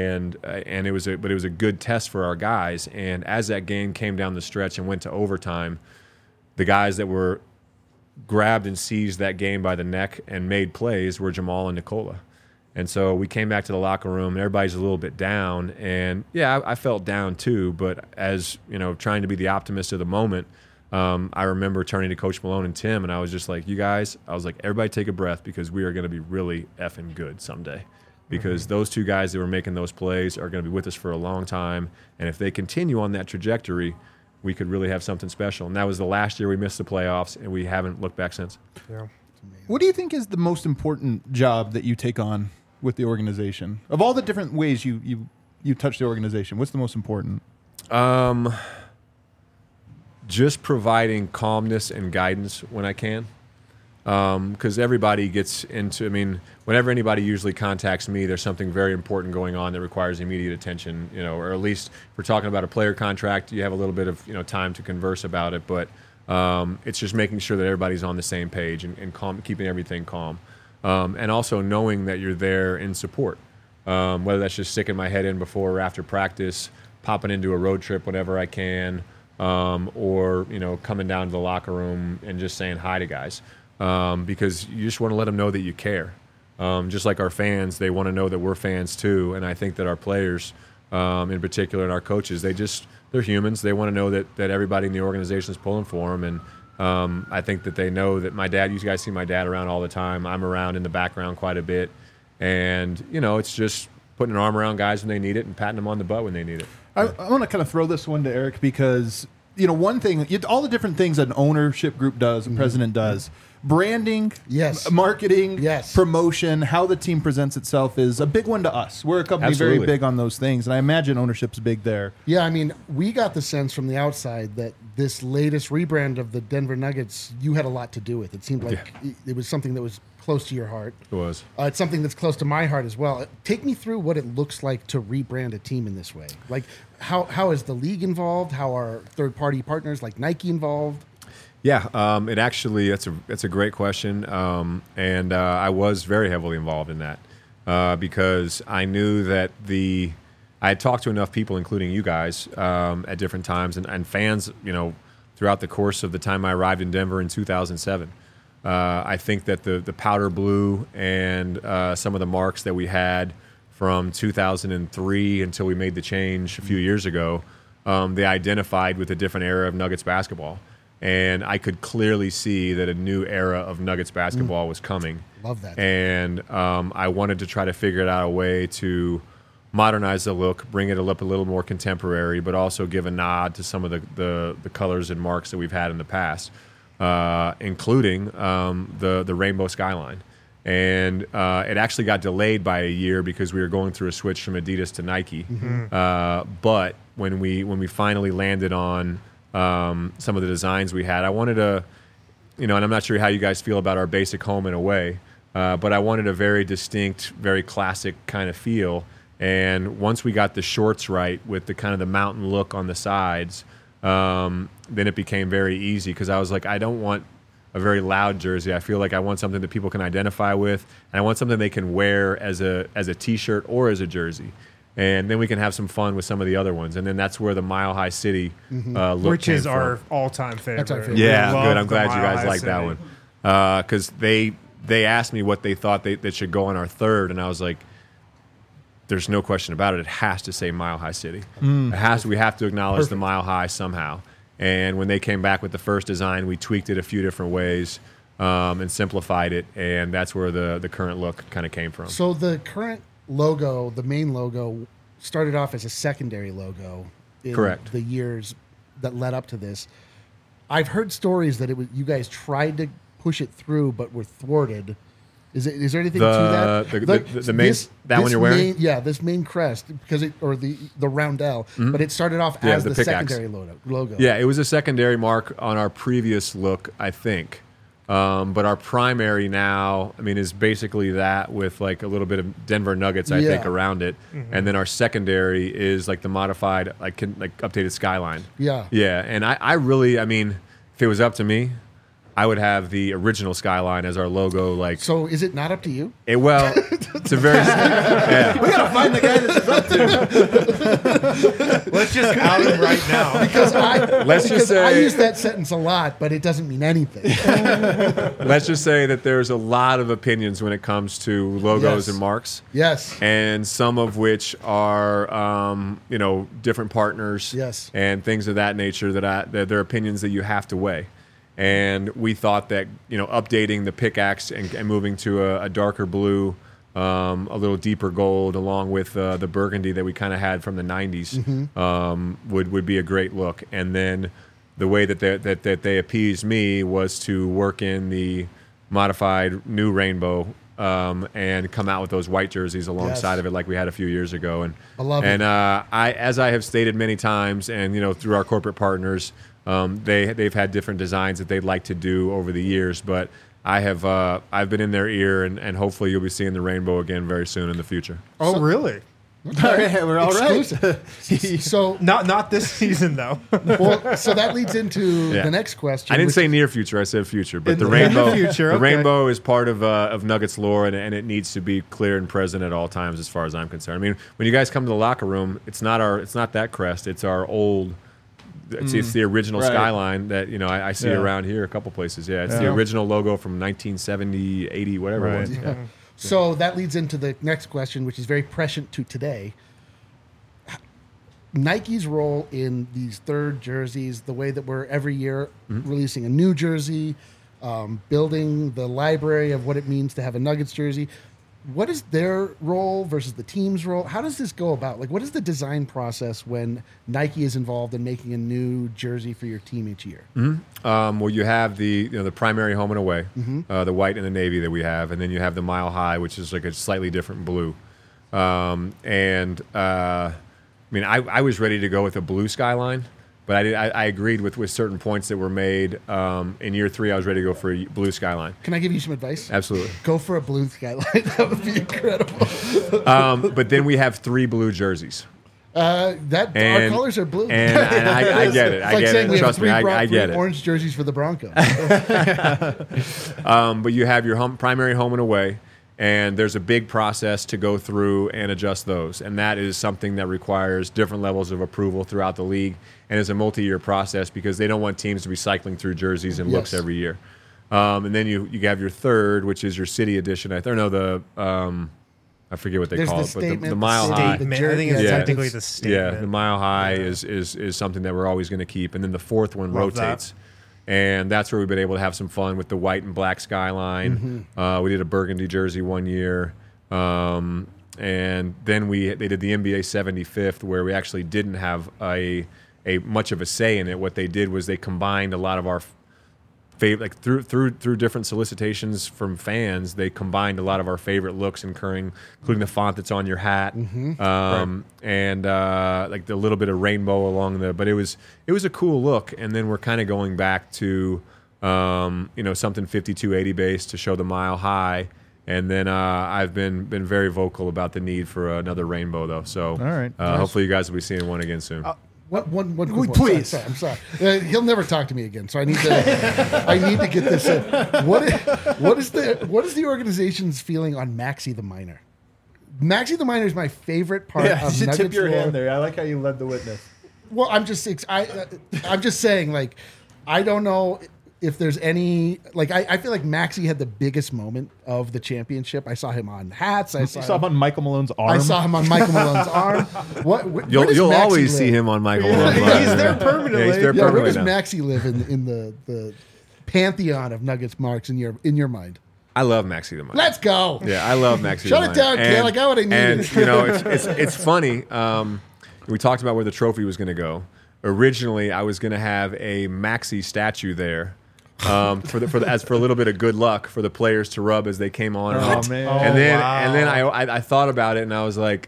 it was a good test for our guys. And as that game came down the stretch and went to overtime, the guys that were grabbed and seized that game by the neck and made plays were Jamal and Nikola. And so we came back to the locker room, and everybody's a little bit down. And yeah, I felt down too. But as trying to be the optimist of the moment, I remember turning to Coach Malone and Tim, and I was just like, "You guys," I was like, "Everybody take a breath because we are going to be really effing good someday." Because those two guys that were making those plays are going to be with us for a long time. And if they continue on that trajectory, we could really have something special. And that was the last year we missed the playoffs, and we haven't looked back since. Yeah. amazing. What do you think is the most important job that you take on with the organization? Of all the different ways you touch the organization, what's the most important? Just providing calmness and guidance when I can. Because everybody gets into, I mean, whenever anybody usually contacts me, there's something very important going on that requires immediate attention, or at least if we're talking about a player contract, you have a little bit of, time to converse about it, but it's just making sure that everybody's on the same page and calm, keeping everything calm. And also knowing that you're there in support, whether that's just sticking my head in before or after practice, popping into a road trip whenever I can, or, coming down to the locker room and just saying hi to guys. Because you just want to let them know that you care. Just like our fans, they want to know that we're fans too. And I think that our players, in particular, and our coaches, they're humans. They want to know that everybody in the organization is pulling for them. And I think that they know that my dad, you guys see my dad around all the time. I'm around in the background quite a bit. And, it's just putting an arm around guys when they need it and patting them on the butt when they need it. I want to kind of throw this one to Eric because, one thing, all the different things that an ownership group does, a president does, branding, yes, marketing, yes, promotion, how the team presents itself is a big one to us. We're a company Absolutely. very big on those things, and I imagine ownership's big there. Yeah, I mean, we got the sense from the outside that this latest rebrand of the Denver Nuggets, you had a lot to do with. It seemed like it was something that was close to your heart. It was. It's something that's close to my heart as well. Take me through what it looks like to rebrand a team in this way. Like, how is the league involved? How are third-party partners like Nike involved? Yeah, it actually, that's a great question. And I was very heavily involved in that because I knew that I had talked to enough people, including you guys, at different times and fans, throughout the course of the time I arrived in Denver in 2007. I think that the powder blue and some of the marks that we had from 2003 until we made the change a few years ago, they identified with a different era of Nuggets basketball. And I could clearly see that a new era of Nuggets basketball was coming. Love that. And I wanted to try to figure out a way to modernize the look, bring it up a little more contemporary, but also give a nod to some of the colors and marks that we've had in the past, including the rainbow skyline. And it actually got delayed by a year because we were going through a switch from Adidas to Nike. Mm-hmm. But when we finally landed on some of the designs we had, I wanted and I'm not sure how you guys feel about our basic home in a way, but I wanted a very distinct, very classic kind of feel. And once we got the shorts right with the kind of the mountain look on the sides, then it became very easy because I was like, I don't want a very loud jersey. I feel like I want something that people can identify with, and I want something they can wear as a T-shirt or as a jersey. And then we can have some fun with some of the other ones. And then that's where the Mile High City look which came is from. Our all-time favorite. That's our favorite. Yeah, We good. love I'm glad the you Mile guys High like that City. one. Because they asked me what they thought that should go on our third, and I was like, there's no question about it. It has to say Mile High City. It has to. We have to acknowledge the Mile High somehow. And when they came back with the first design, we tweaked it a few different ways and simplified it, and that's where the current look kind of came from. So the current logo, the main logo, started off as a secondary logo in Correct. the years that led up to this. I've heard stories that you guys tried to push it through but were thwarted. Is there anything to that? The main that one you're wearing? This main crest or the roundel, but it started off Yeah, as the the pickaxe. secondary logo. Yeah, it was a secondary mark on our previous look, I think. But our primary now, is basically that with like a little bit of Denver Nuggets, I think, around it, and then our secondary is like the modified, like updated skyline. Yeah. Yeah, and I really, if it was up to me, I would have the original skyline as our logo. Like, So is it not up to you? it's a very yeah. We gotta find the guy this is up to. Let's just out him right now. Because Let's just I say- use that sentence a lot, but it doesn't mean anything. Let's just say that there's a lot of opinions when it comes to logos Yes. and marks. Yes. And some of which are, different partners, Yes. and things of that nature that they're opinions that you have to weigh. And we thought that updating the pickaxe and moving to a darker blue, a little deeper gold, along with the burgundy that we kind of had from the '90s, would be a great look. And then the way that they appeased me was to work in the modified new rainbow and come out with those white jerseys alongside of it, like we had a few years ago. And I love it. And as I have stated many times, and through our corporate partners, they've had different designs that they'd like to do over the years, but I've been in their ear, and hopefully you'll be seeing the rainbow again very soon in the future. Oh, really? We're all Exclusive. So Not this season though. well, so that leads into the next question. I didn't which say near future; I said future. But the the rainbow, future, the okay. rainbow is part of Nuggets lore, and it needs to be clear and present at all times, as far as I'm concerned. I mean, when you guys come to the locker room, it's not that crest; it's our old. It's the original skyline that I see around here a couple places. Yeah, it's the original logo from 1970, 80, whatever it was. Yeah. So that leads into the next question, which is very prescient to today. Nike's role in these third jerseys, the way that we're every year releasing a new jersey, building the library of what it means to have a Nuggets jersey. What is their role versus the team's role? How does this go about? Like, what is the design process when Nike is involved in making a new jersey for your team each year? Well, you have the primary home and away, the white and the navy that we have, and then you have the Mile High, which is like a slightly different blue. I mean, I was ready to go with a blue skyline, but I agreed with certain points that were made. In year 3, I was ready to go for a blue skyline. Can I give you some advice? Absolutely. Go for a blue skyline. That would be incredible. But then we have 3 blue jerseys. Our colors are blue. And I get it. It's like saying we Trust have me, three I get it. orange jerseys for the Broncos. But you have your primary home and away, and there's a big process to go through and adjust those. And that is something that requires different levels of approval throughout the league, and is a multi-year process because they don't want teams to be cycling through jerseys and looks every year. And then you have your third, which is your city edition. I forget what they call it, but the Mile High. I think it's technically the statement. Yeah, the Mile High is something that we're always going to keep. And then the fourth one rotates. And that's where we've been able to have some fun with the white and black skyline. We did a burgundy jersey one year. And then they did the NBA 75th, where we actually didn't have a much of a say in it. What they did was they combined a lot of our favorite, like through different solicitations from fans, they combined a lot of our favorite looks, including the font that's on your hat, and like the little bit of rainbow along the. But it was a cool look, and then we're kind of going back to something 5280 based to show the Mile High. And then I've been very vocal about the need for another rainbow, though. So all right, hopefully you guys will be seeing one again soon. One quick one. Please. I'm sorry. He'll never talk to me again, so I need to get this in. What is the organization's feeling on Maxi the Miner? Maxi the Miner is my favorite part of you should Nuggets tip your lore. hand there. I like how you led the witness. Well, I'm just saying, like, I don't know if there's any, like, I feel like Maxi had the biggest moment of the championship. I saw him on hats. I saw him on Michael Malone's arm. I saw him on Michael Malone's arm. You'll always see him on Michael Malone's arm. He's there permanently. Yeah, he's there Where permanently does now. Maxi live in the pantheon of Nuggets marks in your mind? I love Maxi the Miner. Let's go. Yeah, I love Maxi Shut the it down, Miner. Cal. I got what I needed. And it's funny. We talked about where the trophy was going to go. Originally, I was going to have a Maxi statue there. For a little bit of good luck for the players to rub as they came on and off. Man. And then I thought about it, and I was like,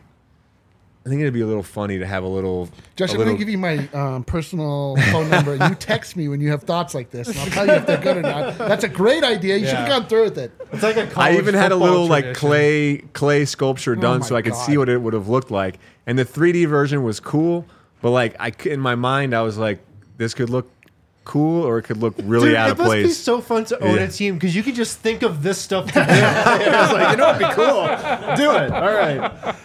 I think it'd be a little funny to have a little. Josh, I'm going to give you my personal phone number, and you text me when you have thoughts like this, and I'll tell you if they're good or not. That's a great idea. You should have gone through with it. It's like a I even had a little tradition. like clay sculpture done my so I could God. see what it would have looked like. And the 3D version was cool, but like in my mind I was like, this could look cool or it could look really Dude, out of it must be place. so fun to own Yeah. a team because you can just think of this stuff to do. I was like, it'd be cool. Do it. All right.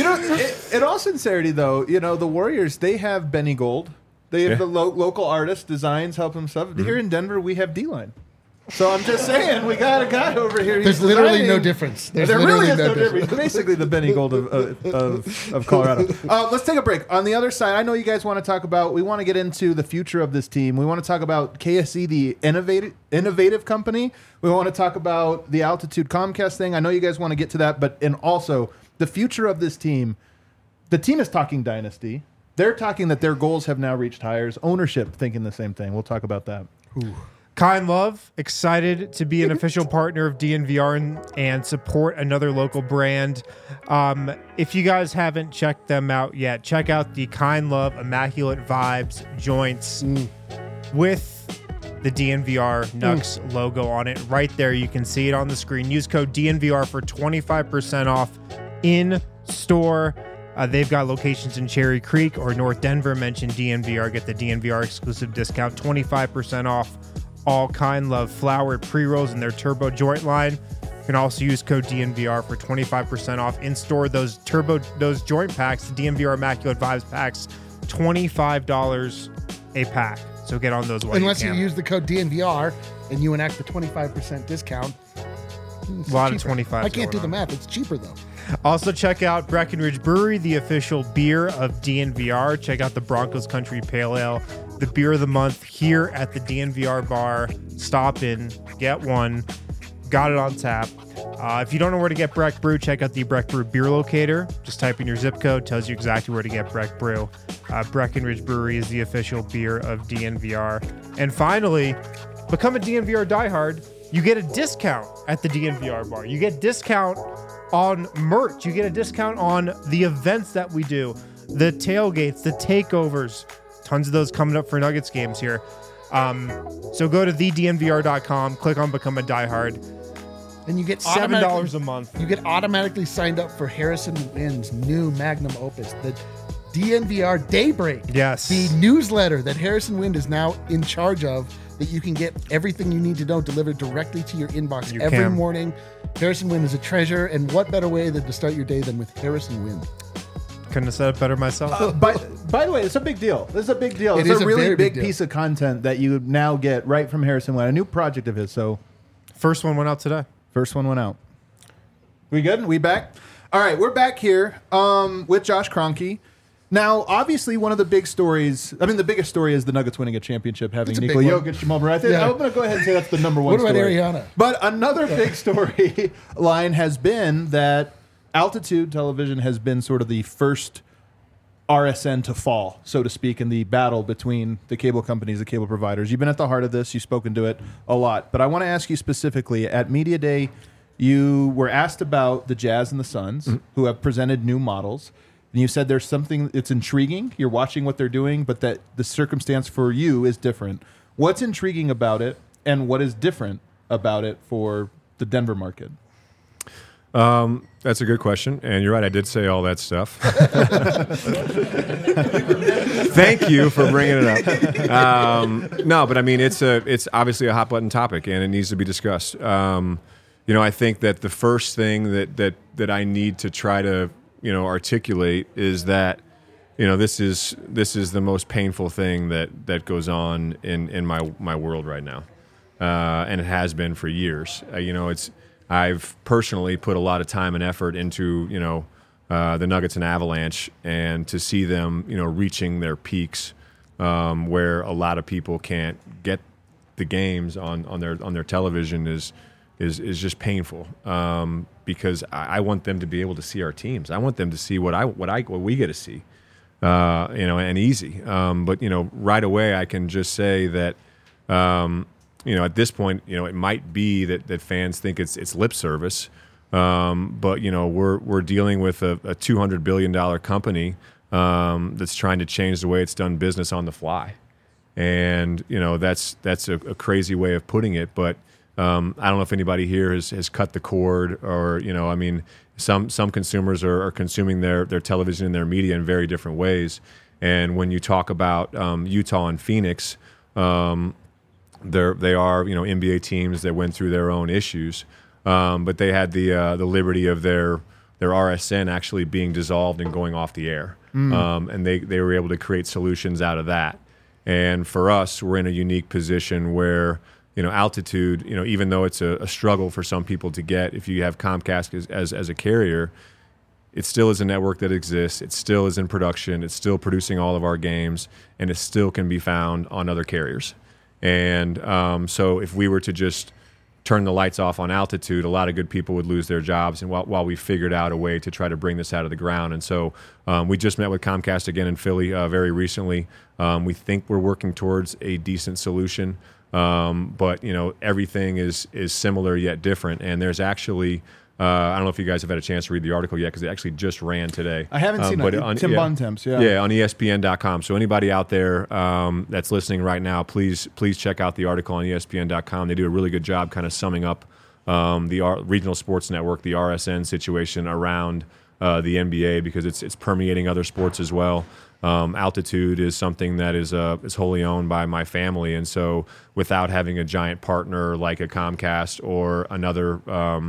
In all sincerity, though, the Warriors, they have Benny Gold. They have the local artist designs help them stuff. Here in Denver, we have D-Line. So I'm just saying, we got a guy over here. There's literally no difference. There really is no difference. Basically, the Benny Gold of Colorado. Let's take a break. On the other side, I know you guys want to talk about. We want to get into the future of this team. We want to talk about KSE, the innovative company. We want to talk about the Altitude Comcast thing. I know you guys want to get to that, and also the future of this team. The team is talking dynasty. They're talking that their goals have now reached hires. Ownership thinking the same thing. We'll talk about that. Kind Love, excited to be an official partner of DNVR and support another local brand. If you guys haven't checked them out yet, check out the Kind Love Immaculate Vibes joints with the DNVR Nugs logo on it. Right there, you can see it on the screen. Use code DNVR for 25% off in store. They've got locations in Cherry Creek or North Denver. Mention DNVR, get the DNVR exclusive discount, 25% off all Kind Love flower pre-rolls in their turbo joint line. You can also use code DNVR for 25% off in store. Those joint packs, the DNVR Immaculate Vibes packs, $25 a pack. So get on those while Unless you you use the code DNVR and you enact the 25% discount. A lot of 25. I can't do the math. It's cheaper, though. Also, check out Breckenridge Brewery, the official beer of DNVR. Check out the Broncos Country Pale Ale, the beer of the month here at the DNVR bar. Stop in, get one. Got it on tap. If you don't know where to get Breck Brew, check out the Breck Brew Beer Locator. Just type in your zip code, tells you exactly where to get Breck Brew. Breckenridge Brewery is the official beer of DNVR. And finally, become a DNVR diehard. You get a discount at the DNVR bar. You get discount on merch. You get a discount on the events that we do, the tailgates, the takeovers. Tons of those coming up for Nuggets games here. So go to thednvr.com, click on Become a Diehard. And you get $7 a month. You get automatically signed up for Harrison Wynn's new magnum opus, the DNVR Daybreak. Yes. The newsletter that Harrison Wynn is now in charge of, that you can get everything you need to know delivered directly to your inbox every morning. Harrison Wynn is a treasure, and what better way than to start your day than with Harrison Wynn? Couldn't have said it better myself. By the way, it's a big deal. This is a big deal. It's is a really very big big piece of content that you now get right from Harrison Wynn, a new project of his. So, First one went out today. first one went out. We good? We back? All right, we're back here with Josh Kroenke. Now, obviously, one of the big stories, the biggest story is the Nuggets winning a championship, having That's a Nikola big one. Jokic, Jamal Murray. I'm going to go ahead and say that's the number one What about story. Ariana? But another big story line has been that Altitude Television has been sort of the first RSN to fall, so to speak, in the battle between the cable companies, the cable providers. You've been at the heart of this. You've spoken to it a lot. But I want to ask you specifically, at Media Day, you were asked about the Jazz and the Suns, who have presented new models. And you said there's something that's intriguing. You're watching what they're doing, but that the circumstance for you is different. What's intriguing about it, and what is different about it for the Denver market? That's a good question, and you're right. I did say all that stuff. Thank you for bringing it up. No, but I mean, it's obviously a hot button topic, and it needs to be discussed. I think that the first thing that I need to try to articulate is that this is the most painful thing that goes on in my world right now, and it has been for years. I've personally put a lot of time and effort into the Nuggets and Avalanche, and to see them reaching their peaks where a lot of people can't get the games on their television is just painful, because I want them to be able to see our teams. I want them to see what we get to see, and easy. But right away I can just say that at this point it might be that fans think it's lip service, but we're dealing with a $200 billion company that's trying to change the way it's done business on the fly, and that's a crazy way of putting it, but. I don't know if anybody here has cut the cord, or some consumers are consuming their television and their media in very different ways. And when you talk about Utah and Phoenix, they are NBA teams that went through their own issues, but they had the liberty of their RSN actually being dissolved and going off the air, and they were able to create solutions out of that. And for us, we're in a unique position where. Altitude, even though it's a struggle for some people to get, if you have Comcast as a carrier, it still is a network that exists. It still is in production. It's still producing all of our games, and it still can be found on other carriers. And so if we were to just turn the lights off on Altitude, a lot of good people would lose their jobs, and while we figured out a way to try to bring this out of the ground. And so we just met with Comcast again in Philly very recently. We think we're working towards a decent solution. But everything is similar yet different. And there's actually I don't know if you guys have had a chance to read the article yet because it actually just ran today. I haven't seen it. Tim Bontemps, on ESPN.com. So anybody out there that's listening right now, please check out the article on ESPN.com. They do a really good job kind of summing up the Regional Sports Network, the RSN situation around the NBA because it's permeating other sports as well. Altitude is something that is wholly owned by my family, and so without having a giant partner like a Comcast or another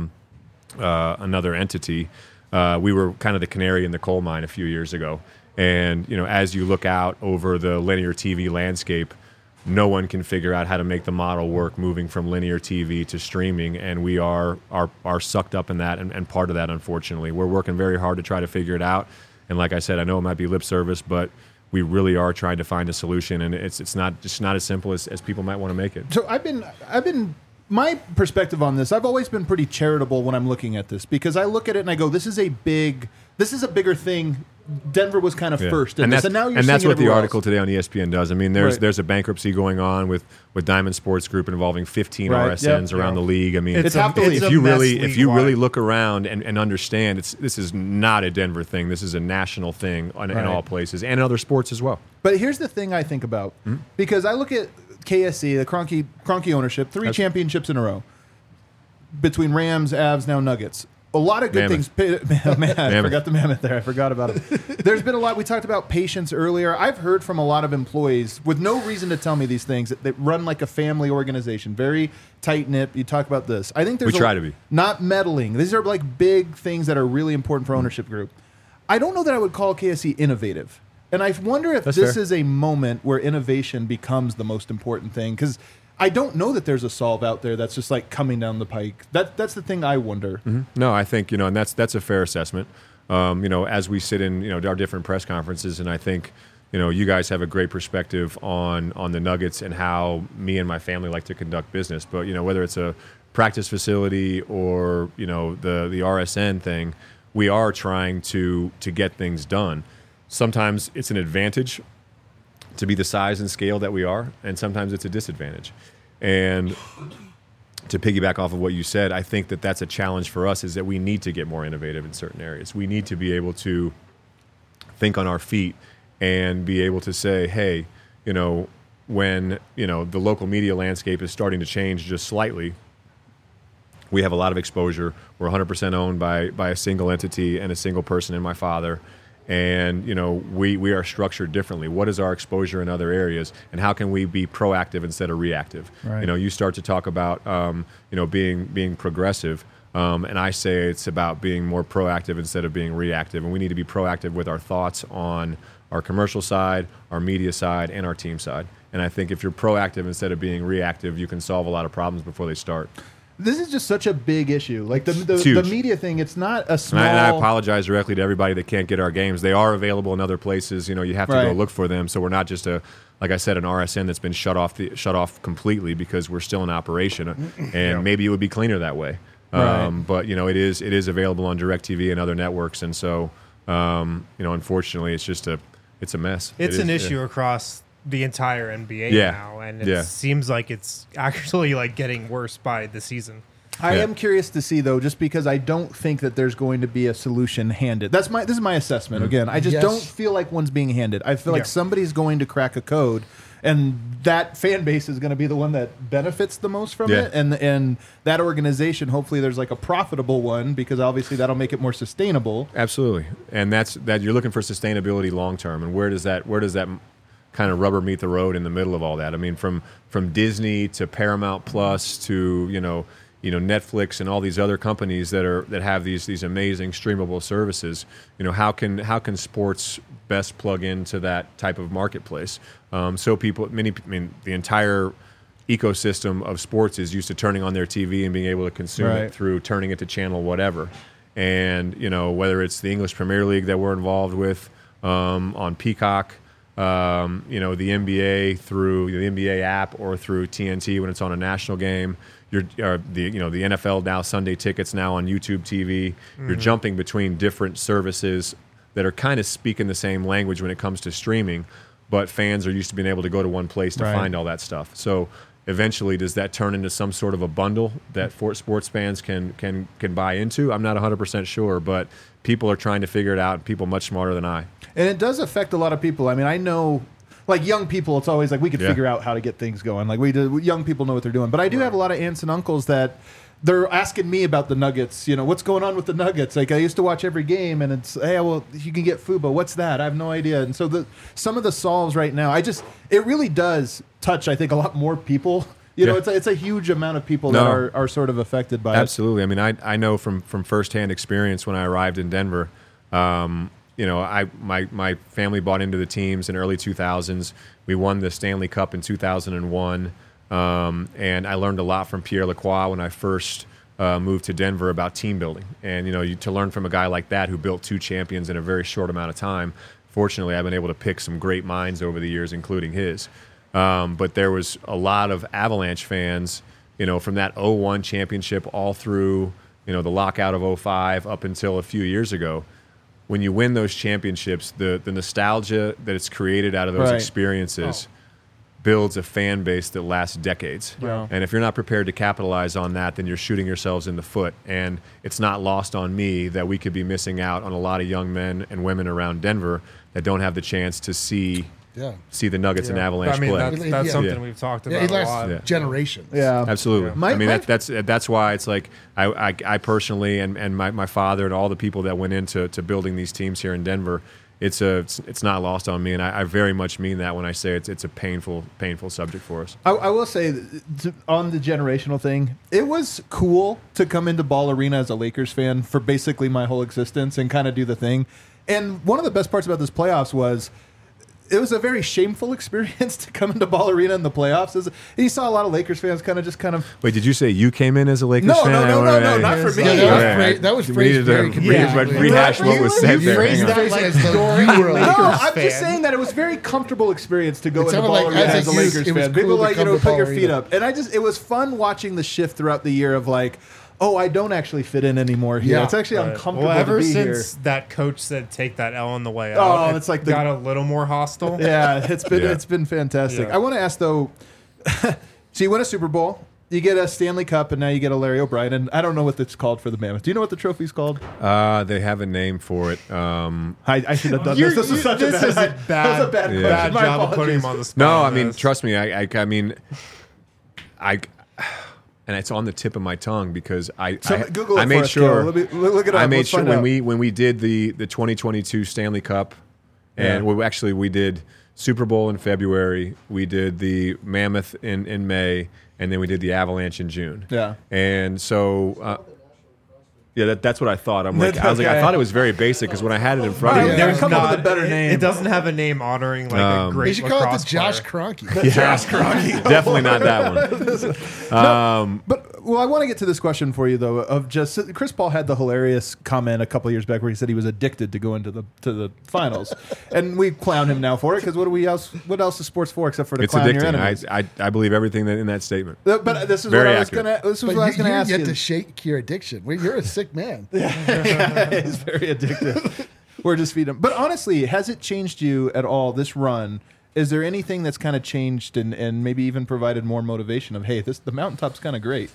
entity, we were kind of the canary in the coal mine a few years ago. And as you look out over the linear TV landscape, no one can figure out how to make the model work moving from linear TV to streaming, and we are sucked up in that and part of that, unfortunately. We're working very hard to try to figure it out. And like I said, I know it might be lip service, but we really are trying to find a solution, and it's not as simple as people might want to make it. So I've been my perspective on this. I've always been pretty charitable when I'm looking at this because I look at it and I go, this is a bigger thing. Denver was kind of first in this, and now you're that's seeing what the everywhere article else. today on ESPN does. I mean, there's a bankruptcy going on with Diamond Sports Group involving 15 RSNs around the league. I mean, It's if you really look around and understand, this is not a Denver thing. This is a national thing in all places and in other sports as well. But here's the thing I think about because I look at KSC, the Kroenke ownership, 3 championships in a row between Rams, Avs, now Nuggets. A lot of good things. I forgot the mammoth there. I forgot about it. There's been a lot. We talked about patience earlier. I've heard from a lot of employees with no reason to tell me these things that run like a family organization, very tight-knit. You talk about this. I think there's try to be. Not meddling. These are like big things that are really important for ownership group. I don't know that I would call KSC innovative. And I wonder if this is a moment where innovation becomes the most important thing because I don't know that there's a solve out there that's just like coming down the pike. That's the thing I wonder. Mm-hmm. No, I think and that's a fair assessment. As we sit in our different press conferences, and I think you guys have a great perspective on the Nuggets and how me and my family like to conduct business. But whether it's a practice facility or the RSN thing, we are trying to get things done. Sometimes it's an advantage to be the size and scale that we are, and sometimes it's a disadvantage. And to piggyback off of what you said, I think that that's a challenge for us is that we need to get more innovative in certain areas. We need to be able to think on our feet and be able to say, hey, when the local media landscape is starting to change just slightly, we have a lot of exposure. We're 100% owned by a single entity and a single person in my father. And we are structured differently. What is our exposure in other areas, and how can we be proactive instead of reactive? Right. You start to talk about being progressive, and I say it's about being more proactive instead of being reactive. And we need to be proactive with our thoughts on our commercial side, our media side, and our team side. And I think if you're proactive instead of being reactive, you can solve a lot of problems before they start. This is just such a big issue. Like the media thing, it's not a small... And I apologize directly to everybody that can't get our games. They are available in other places. You have to go look for them. So we're not just like I said, an RSN that's been shut off completely because we're still in operation. And maybe it would be cleaner that way. But it is available on DirecTV and other networks. And so unfortunately, it's a mess. It's an issue across the entire NBA now, and it seems like it's actually like getting worse by the season. I am curious to see though, just because I don't think that there's going to be a solution handed. This is my assessment. Again, I just don't feel like one's being handed. I feel like somebody's going to crack a code, and that fan base is going to be the one that benefits the most from it, and that organization. Hopefully, there's like a profitable one because obviously that'll make it more sustainable. Absolutely, and that's you're looking for sustainability long term, and where does that kind of rubber meet the road in the middle of all that? I mean, from Disney to Paramount Plus to Netflix and all these other companies that have these amazing streamable services. How can sports best plug into that type of marketplace? So the entire ecosystem of sports is used to turning on their TV and being able to consume it through turning it to channel whatever. And whether it's the English Premier League that we're involved with on Peacock. The NBA through the NBA app or through TNT when it's on a national game. The NFL now, Sunday tickets now on YouTube TV. You're jumping between different services that are kind of speaking the same language when it comes to streaming, but fans are used to being able to go to one place to find all that stuff. So eventually, does that turn into some sort of a bundle that sports fans can buy into? I'm not 100% sure, but people are trying to figure it out, people much smarter than I. And it does affect a lot of people. I mean, I know, like young people, it's always like we could figure out how to get things going. Like young people know what they're doing. But I do have a lot of aunts and uncles that they're asking me about the Nuggets. You know, what's going on with the Nuggets? Like I used to watch every game, and it's, hey, well, you can get Fubo. What's that? I have no idea. And so some of the solves right now, it really does touch, I think, a lot more people. You know, it's a huge amount of people that are sort of affected by it. Absolutely. I mean, I know from firsthand experience when I arrived in Denver. You know, my family bought into the teams in early 2000s. We won the Stanley Cup in 2001, and I learned a lot from Pierre Lacroix when I first moved to Denver about team building. And you know, to learn from a guy like that who built 2 champions in a very short amount of time. Fortunately, I've been able to pick some great minds over the years, including his. But there was a lot of Avalanche fans, you know, from that 01 championship all through, you know, the lockout of 05 up until a few years ago. When you win those championships, the nostalgia that it's created out of those experiences builds a fan base that lasts decades. Yeah. And if you're not prepared to capitalize on that, then you're shooting yourselves in the foot. And it's not lost on me that we could be missing out on a lot of young men and women around Denver that don't have the chance to see the Nuggets and Avalanche play. That's something we've talked about it a lasts lot. generations. Yeah, absolutely. Yeah. I mean, that's why it's like I personally and my father and all the people that went into building these teams here in Denver, it's not lost on me, and I very much mean that when I say it's a painful subject for us. I will say, on the generational thing, it was cool to come into Ball Arena as a Lakers fan for basically my whole existence and kind of do the thing. And one of the best parts about this playoffs was it was a very shameful experience to come into Ball Arena in the playoffs. And you saw a lot of Lakers fans kind of. Wait, did you say you came in as a Lakers fan? No, not for me. That was phrased very conveniently. Rehash what was said there. I'm just saying that it was a very comfortable experience to go into Ball Arena as a Lakers fan. People like, put your feet up. And it was fun watching the shift throughout the year of like, oh, I don't actually fit in anymore here. Yeah. It's actually uncomfortable to be here. Ever since that coach said take that L on the way out, it's like got a little more hostile. Yeah, it's been fantastic. Yeah. I want to ask though, so you win a Super Bowl, you get a Stanley Cup, and now you get a Larry O'Brien, and I don't know what it's called for the Mammoth. Do you know what the trophy's called? They have a name for it. I should have done this. This was such a bad question. Bad job of putting him on the spot. No, I mean, trust me. I mean, and it's on the tip of my tongue because I made sure. Look it up. I made sure when we did the 2022 Stanley Cup, and we did Super Bowl in February, we did the Mammoth in May, and then we did the Avalanche in June. Yeah, and so. Yeah, that's what I thought. I thought it was very basic because when I had it in front of me, there's come up with a better name. It doesn't have a name honoring like a great. They should call it the Josh Kroenke. Josh Kroenke. Definitely not that one. But I want to get to this question for you though. Of just Chris Paul had the hilarious comment a couple of years back where he said he was addicted to going to the finals, and we clown him now for it because what else is sports for except for to clown your enemies? I believe everything in that statement. But this is what I was going to ask you. You get to shake your addiction. You're a sick man. Yeah, he's very addictive. We're just feeding him. But honestly, has it changed you at all, this run? Is there anything that's kind of changed and maybe even provided more motivation of, hey, the mountaintop's kind of great?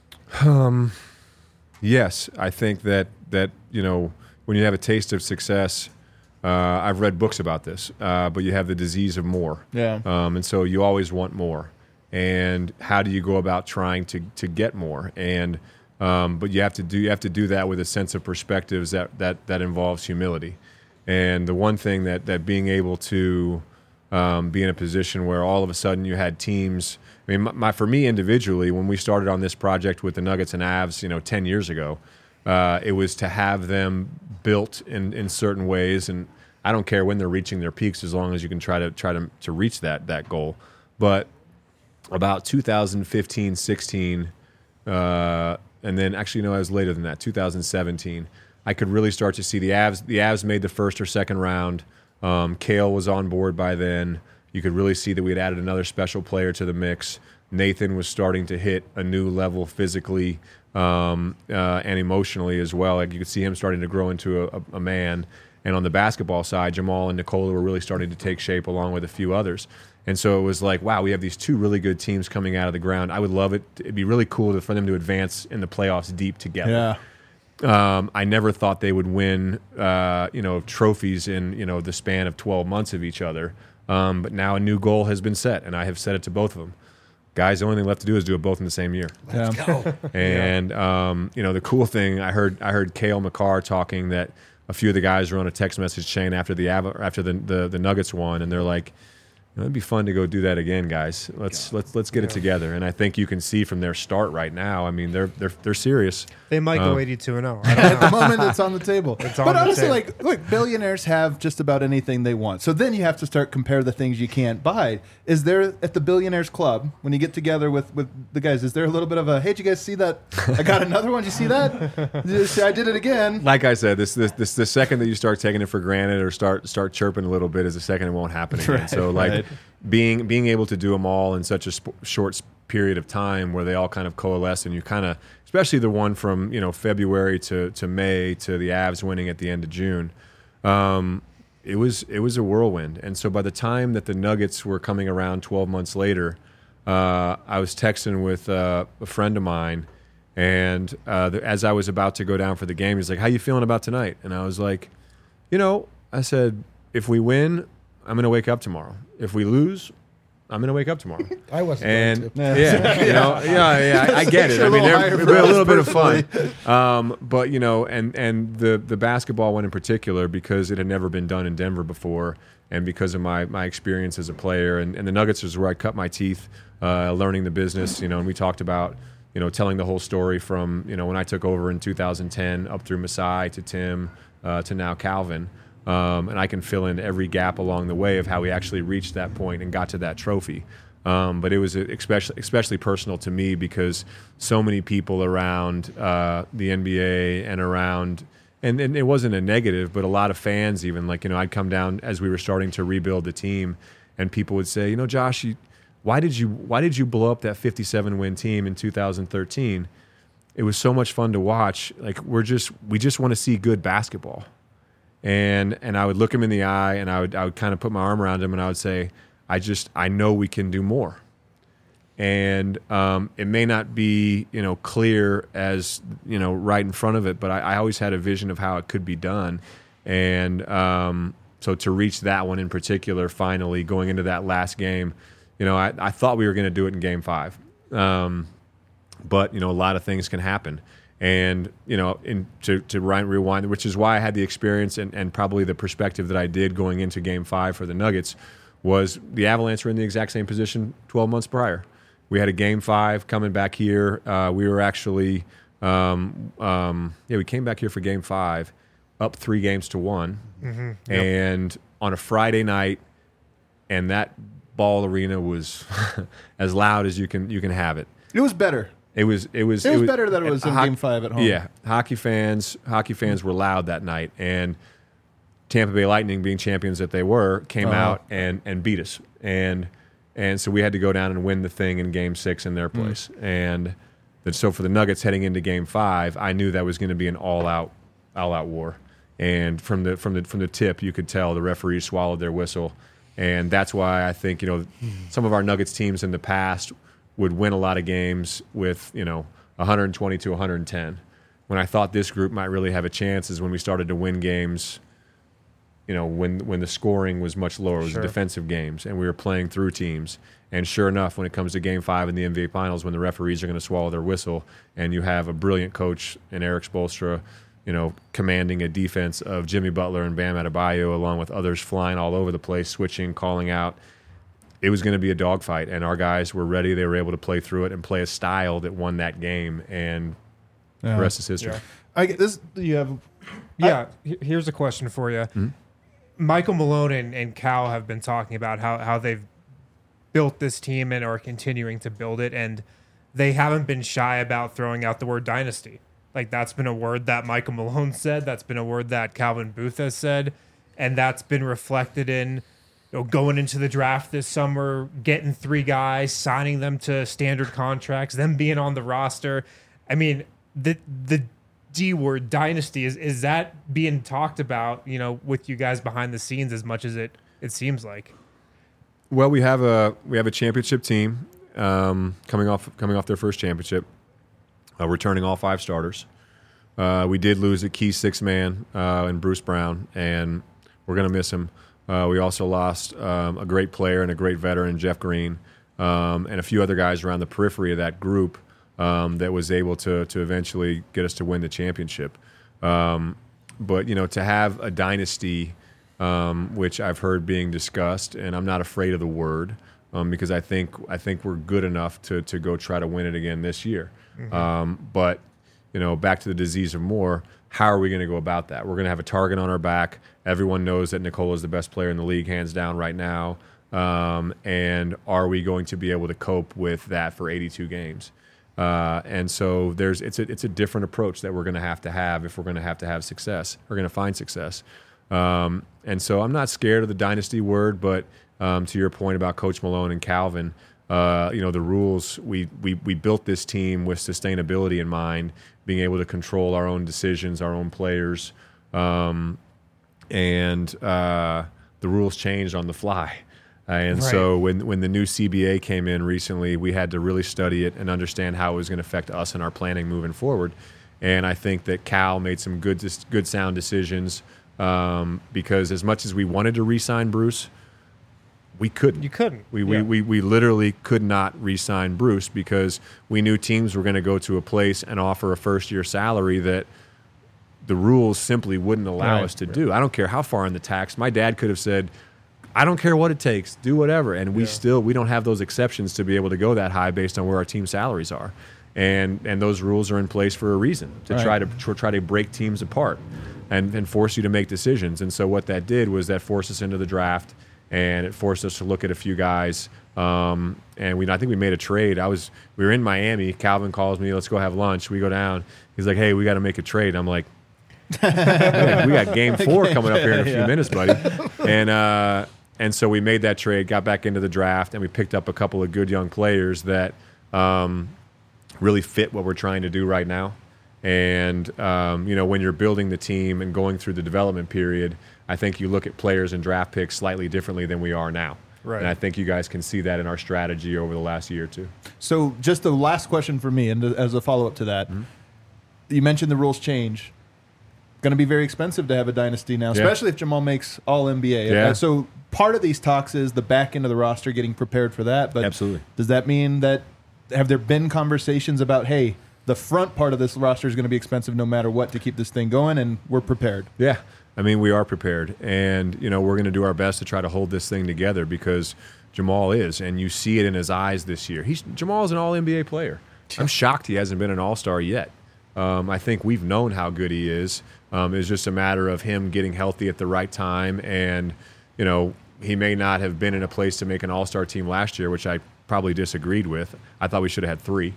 Yes, I think that you know, when you have a taste of success, I've read books about this, but you have the disease of more. Yeah. And so you always want more. And how do you go about trying to get more? And but you have to do that with a sense of perspectives that involves humility. And the one thing that being able to be in a position where all of a sudden you had teams. I mean, for me individually, when we started on this project with the Nuggets and Avs, 10 years ago, it was to have them built in certain ways. And I don't care when they're reaching their peaks as long as you can try to reach that goal. But about 2015, 16. And then actually, no, I was later than that, 2017. I could really start to see the Avs. The Avs made the first or second round. Kale was on board by then. You could really see that we had added another special player to the mix. Nathan was starting to hit a new level physically and emotionally as well. Like you could see him starting to grow into a man. And on the basketball side, Jamal and Nikola were really starting to take shape along with a few others. And so it was like, wow, we have these two really good teams coming out of the ground. I would love it. It'd be really cool for them to advance in the playoffs deep together. Yeah. I never thought they would win, trophies in, the span of 12 months of each other. But now a new goal has been set, and I have set it to both of them. Guys, the only thing left to do is do it both in the same year. Let's go. And the cool thing, I heard Cale Makar talking that a few of the guys were on a text message chain after the Nuggets won, and they're like, it'd be fun to go do that again, guys. Let's get it together. And I think you can see from their start right now. I mean, they're serious. They might go 82-0. At the moment, it's on the table. But honestly, look, billionaires have just about anything they want. So then you have to start compare the things you can't buy. Is there at the Billionaires Club, when you get together with the guys, is there a little bit of a, hey, did you guys see that? I got another one. Did you see that? I did it again. Like I said, this the second that you start taking it for granted or start chirping a little bit is the second it won't happen again. Right, so right. Being able to do them all in such a short period of time where they all kind of coalesce, and you kind of, especially the one from February to May to the Avs winning at the end of June, it was a whirlwind. And so by the time that the Nuggets were coming around 12 months later, I was texting with a friend of mine, and as I was about to go down for the game, he's like, "How you feeling about tonight?" And I was like, I said, if we win, I'm going to wake up tomorrow. If we lose, I'm going to wake up tomorrow. I wasn't And going to. I get it. I mean, there's a little bit of fun. But and the basketball one in particular, because it had never been done in Denver before, and because of my experience as a player, and the Nuggets was where I cut my teeth, learning the business. And we talked about telling the whole story from when I took over in 2010 up through Masai to Tim to now Calvin. And I can fill in every gap along the way of how we actually reached that point and got to that trophy. But it was especially personal to me because so many people around the NBA and around, and it wasn't a negative, but a lot of fans even, I'd come down as we were starting to rebuild the team, and people would say, Josh, why did you blow up that 57-win team in 2013? It was so much fun to watch. We just want to see good basketball. And I would look him in the eye, and I would kind of put my arm around him, and I would say, I know we can do more. And it may not be clear as right in front of it, but I always had a vision of how it could be done. And so to reach that one in particular, finally going into that last game, I thought we were going to do it in Game 5, but a lot of things can happen. And, to rewind, which is why I had the experience and probably the perspective that I did going into Game 5 for the Nuggets, was the Avalanche were in the exact same position 12 months prior. We had a Game 5 coming back here. We were actually, we came back here for Game 5, up 3-1. Mm-hmm. Yep. And on a Friday night, and that Ball Arena was as loud as you can have it. It was better. It was better that it was in Game 5 at home. Yeah, hockey fans were loud that night, and Tampa Bay Lightning, being champions that they were, came out and beat us, and so we had to go down and win the thing in Game 6 in their place. And so for the Nuggets heading into Game 5, I knew that was going to be an all out war. And from the tip, you could tell the referees swallowed their whistle, and that's why I think some of our Nuggets teams in the past would win a lot of games with 120 to 110. When I thought this group might really have a chance is when we started to win games, when the scoring was much lower. It was defensive games, and we were playing through teams. And sure enough, when it comes to Game 5 in the NBA Finals, when the referees are going to swallow their whistle, and you have a brilliant coach in Eric Spoelstra, commanding a defense of Jimmy Butler and Bam Adebayo, along with others flying all over the place, switching, calling out, it was going to be a dogfight, and our guys were ready. They were able to play through it and play a style that won that game, and the rest is history. Yeah. I get this. You have. Yeah. Here's a question for you. Mm-hmm. Michael Malone and Cal have been talking about how they've built this team and are continuing to build it, and they haven't been shy about throwing out the word dynasty. That's been a word that Michael Malone said. That's been a word that Calvin Booth has said, and that's been reflected in going into the draft this summer, getting 3 guys, signing them to standard contracts, them being on the roster. I mean, the D word dynasty, is that being talked about, you know, with you guys behind the scenes as much as it seems like? Well, we have a championship team coming off their first championship, returning all 5 starters. We did lose a key 6 man in Bruce Brown, and we're going to miss him. We also lost a great player and a great veteran, Jeff Green, and a few other guys around the periphery of that group that was able to eventually get us to win the championship. But, you know, to have a dynasty, which I've heard being discussed, and I'm not afraid of the word, because I think we're good enough to go try to win it again this year. Mm-hmm. But, you know, back to the disease of more, how are we going to go about that? We're going to have a target on our back. Everyone knows that Nikola is the best player in the league, hands down, right now. And are we going to be able to cope with that for 82 games? And so it's a different approach that we're going to have if we're going to have success. We're going to find success. And so I'm not scared of the dynasty word, but to your point about Coach Malone and Calvin, you know, the rules, we built this team with sustainability in mind, being able to control our own decisions, our own players, and the rules changed on the fly. And so when the new CBA came in recently, we had to really study it and understand how it was going to affect us and our planning moving forward. And I think that Cal made some good sound decisions, because as much as we wanted to re-sign Bruce, we couldn't. You couldn't. We literally could not re-sign Bruce because we knew teams were going to go to a place and offer a first-year salary that the rules simply wouldn't allow us to do. I don't care how far in the tax. My dad could have said, I don't care what it takes, do whatever. And we don't have those exceptions to be able to go that high based on where our team salaries are. And those rules are in place for a reason, to try to break teams apart and force you to make decisions. And so what that did was that forced us into the draft, and it forced us to look at a few guys. And I think we made a trade. We were in Miami. Calvin calls me, let's go have lunch. We go down. He's like, hey, we got to make a trade. I'm like, we got game 4 coming up here in a few minutes, buddy. And so we made that trade, got back into the draft, and we picked up a couple of good young players that really fit what we're trying to do right now. And, you know, when you're building the team and going through the development period, I think you look at players and draft picks slightly differently than we are now. Right. And I think you guys can see that in our strategy over the last year or two. So just the last question for me, and as a follow-up to that, you mentioned the rules change. Going to be very expensive to have a dynasty now, especially if Jamal makes All-NBA. Yeah. So part of these talks is the back end of the roster getting prepared for that. But absolutely. Does that mean that have there been conversations about, hey, the front part of this roster is going to be expensive no matter what to keep this thing going, and we're prepared? Yeah. I mean, we are prepared. And, you know, we're going to do our best to try to hold this thing together because Jamal is, and you see it in his eyes this year. Jamal is an All-NBA player. I'm shocked he hasn't been an All-Star yet. I think we've known how good he is. It's just a matter of him getting healthy at the right time. And, you know, he may not have been in a place to make an all-star team last year, which I probably disagreed with. I thought we should have had 3.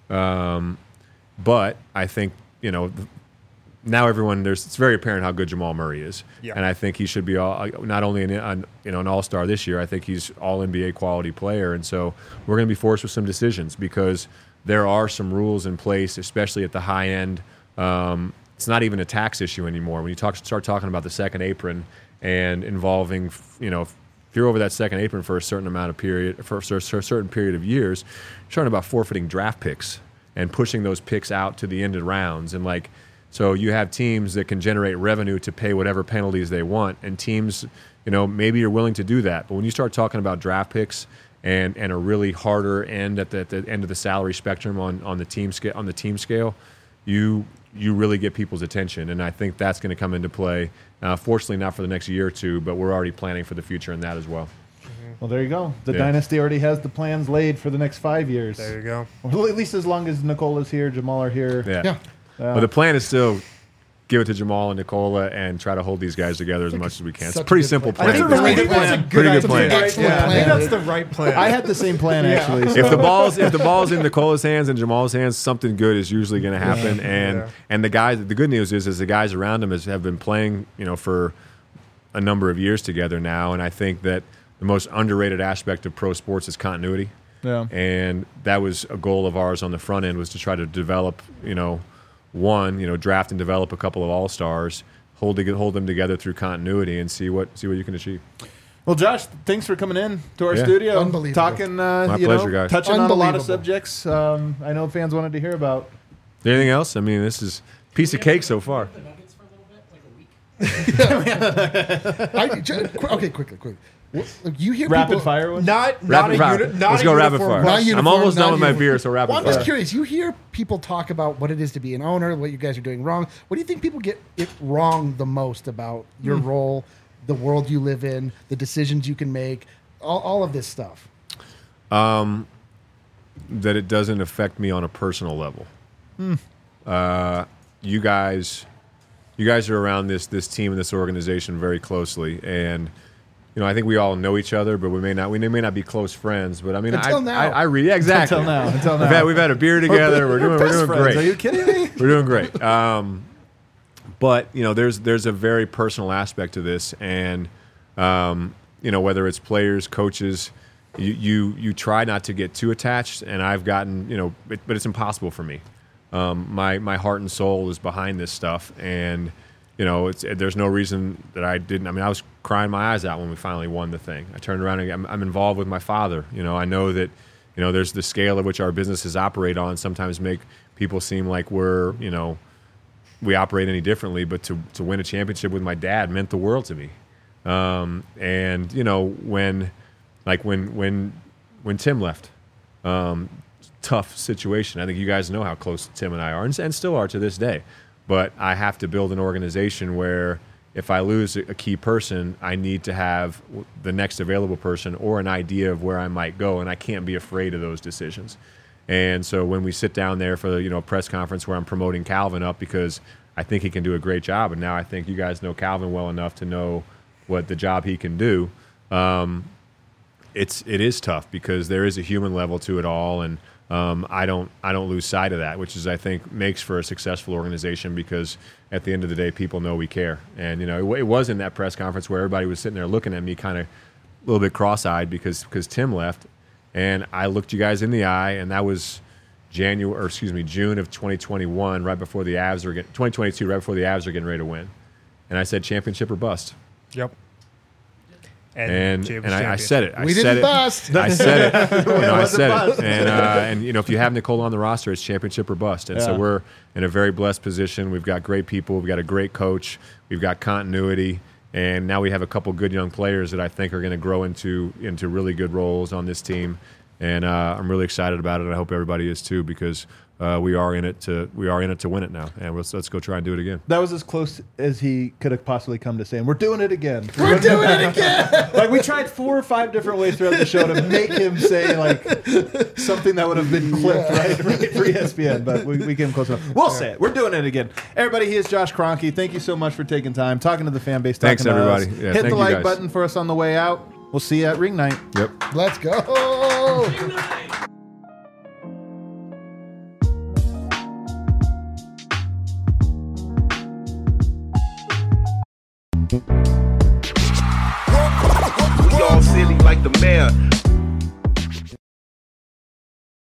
But I think, you know, now it's very apparent how good Jamal Murray is. Yeah. And I think he should be not only an all-star this year, I think he's all-NBA quality player. And so we're going to be forced with some decisions because there are some rules in place, especially at the high end. It's not even a tax issue anymore. When you start talking about the second apron and involving, you know, if you're over that second apron for a certain period of years, you're talking about forfeiting draft picks and pushing those picks out to the end of rounds. And so you have teams that can generate revenue to pay whatever penalties they want, and teams, you know, maybe you're willing to do that. But when you start talking about draft picks and a really harder end at the end of the salary spectrum on the team scale, you really get people's attention, and I think that's going to come into play. Fortunately, not for the next year or two, but we're already planning for the future in that as well. Well, there you go. The dynasty already has the plans laid for the next 5 years. There you go. Well, at least as long as Nikola's here, Jamal are here. Yeah. But the plan is still give it to Jamal and Nikola and try to hold these guys together as much as we can. It's a pretty simple plan. I think that's a pretty good plan. Excellent plan. I think that's the right plan. I had the same plan actually. So. If the ball's in Nikola's hands and Jamal's hands, something good is usually going to happen. And the guys, the good news is the guys around him have been playing, you know, for a number of years together now, and I think that the most underrated aspect of pro sports is continuity. Yeah. And that was a goal of ours on the front end, was to try to develop, you know, one, draft and develop a couple of all-stars, hold them together through continuity, and see what you can achieve. Well, Josh, thanks for coming in to our studio. Unbelievable. Talking, My pleasure, guys. touching on a lot of subjects I know fans wanted to hear about. Anything else? I mean, this is a piece of cake so far. Okay, quickly. You hear Rapid people, fire one? Not Rapid fire. Let's go rapid fire. I'm almost done with my beer, so rapid Well, I'm fire. just curious. You hear people talk about what it is to be an owner, what you guys are doing wrong. What do you think people get it wrong the most about your role, the world you live in, the decisions you can make, all of this stuff? That it doesn't affect me on a personal level. You guys are around this team and this organization very closely, and I think we all know each other, but we may not be close exactly. Until now. We've had a beer together. We're doing great. Are you kidding me? We're doing great. But there's a very personal aspect to this, and whether it's players, coaches, you try not to get too attached, and I've gotten but it's impossible for me. My heart and soul is behind this stuff, and there's no reason that I didn't. I was crying my eyes out when we finally won the thing. I turned around and I'm involved with my father. I know that there's the scale at which our businesses operate on sometimes make people seem like we operate any differently, but to win a championship with my dad meant the world to me. And when Tim left, tough situation. I think you guys know how close Tim and I are, and still are to this day. But I have to build an organization where if I lose a key person, I need to have the next available person or an idea of where I might go, and I can't be afraid of those decisions. And so when we sit down there for a press conference where I'm promoting Calvin up because I think he can do a great job, and now I think you guys know Calvin well enough to know what the job he can do, it is tough because there is a human level to it all, and I don't lose sight of that, which is I think makes for a successful organization because at the end of the day, people know we care. And it was in that press conference where everybody was sitting there looking at me kind of a little bit cross-eyed because Tim left, and I looked you guys in the eye, and that was June of 2021, right before the Avs are 2022, right before the Avs are getting ready to win, and I said championship or bust. Yep. And I said it. We didn't bust. I said it. I said it. And if you have Nicole on the roster, it's championship or bust. And so we're in a very blessed position. We've got great people. We've got a great coach. We've got continuity. And now we have a couple good young players that I think are going to grow into really good roles on this team. And I'm really excited about it. I hope everybody is too, because we are in it to win it now. And let's go try and do it again. That was as close as he could have possibly come to saying, "We're doing it again." We're doing it again. Like we tried 4 or 5 different ways throughout the show to make him say like something that would have been clipped right for ESPN, but we came close enough. We'll say it. We're doing it again. Everybody, he is Josh Kroenke. Thank you so much for taking time, talking to the fan base. Thanks, everybody. Yeah, hit the like button for us on the way out. We'll see you at Ring Night. Yep. Let's go. Ring Night. We all silly like the mayor.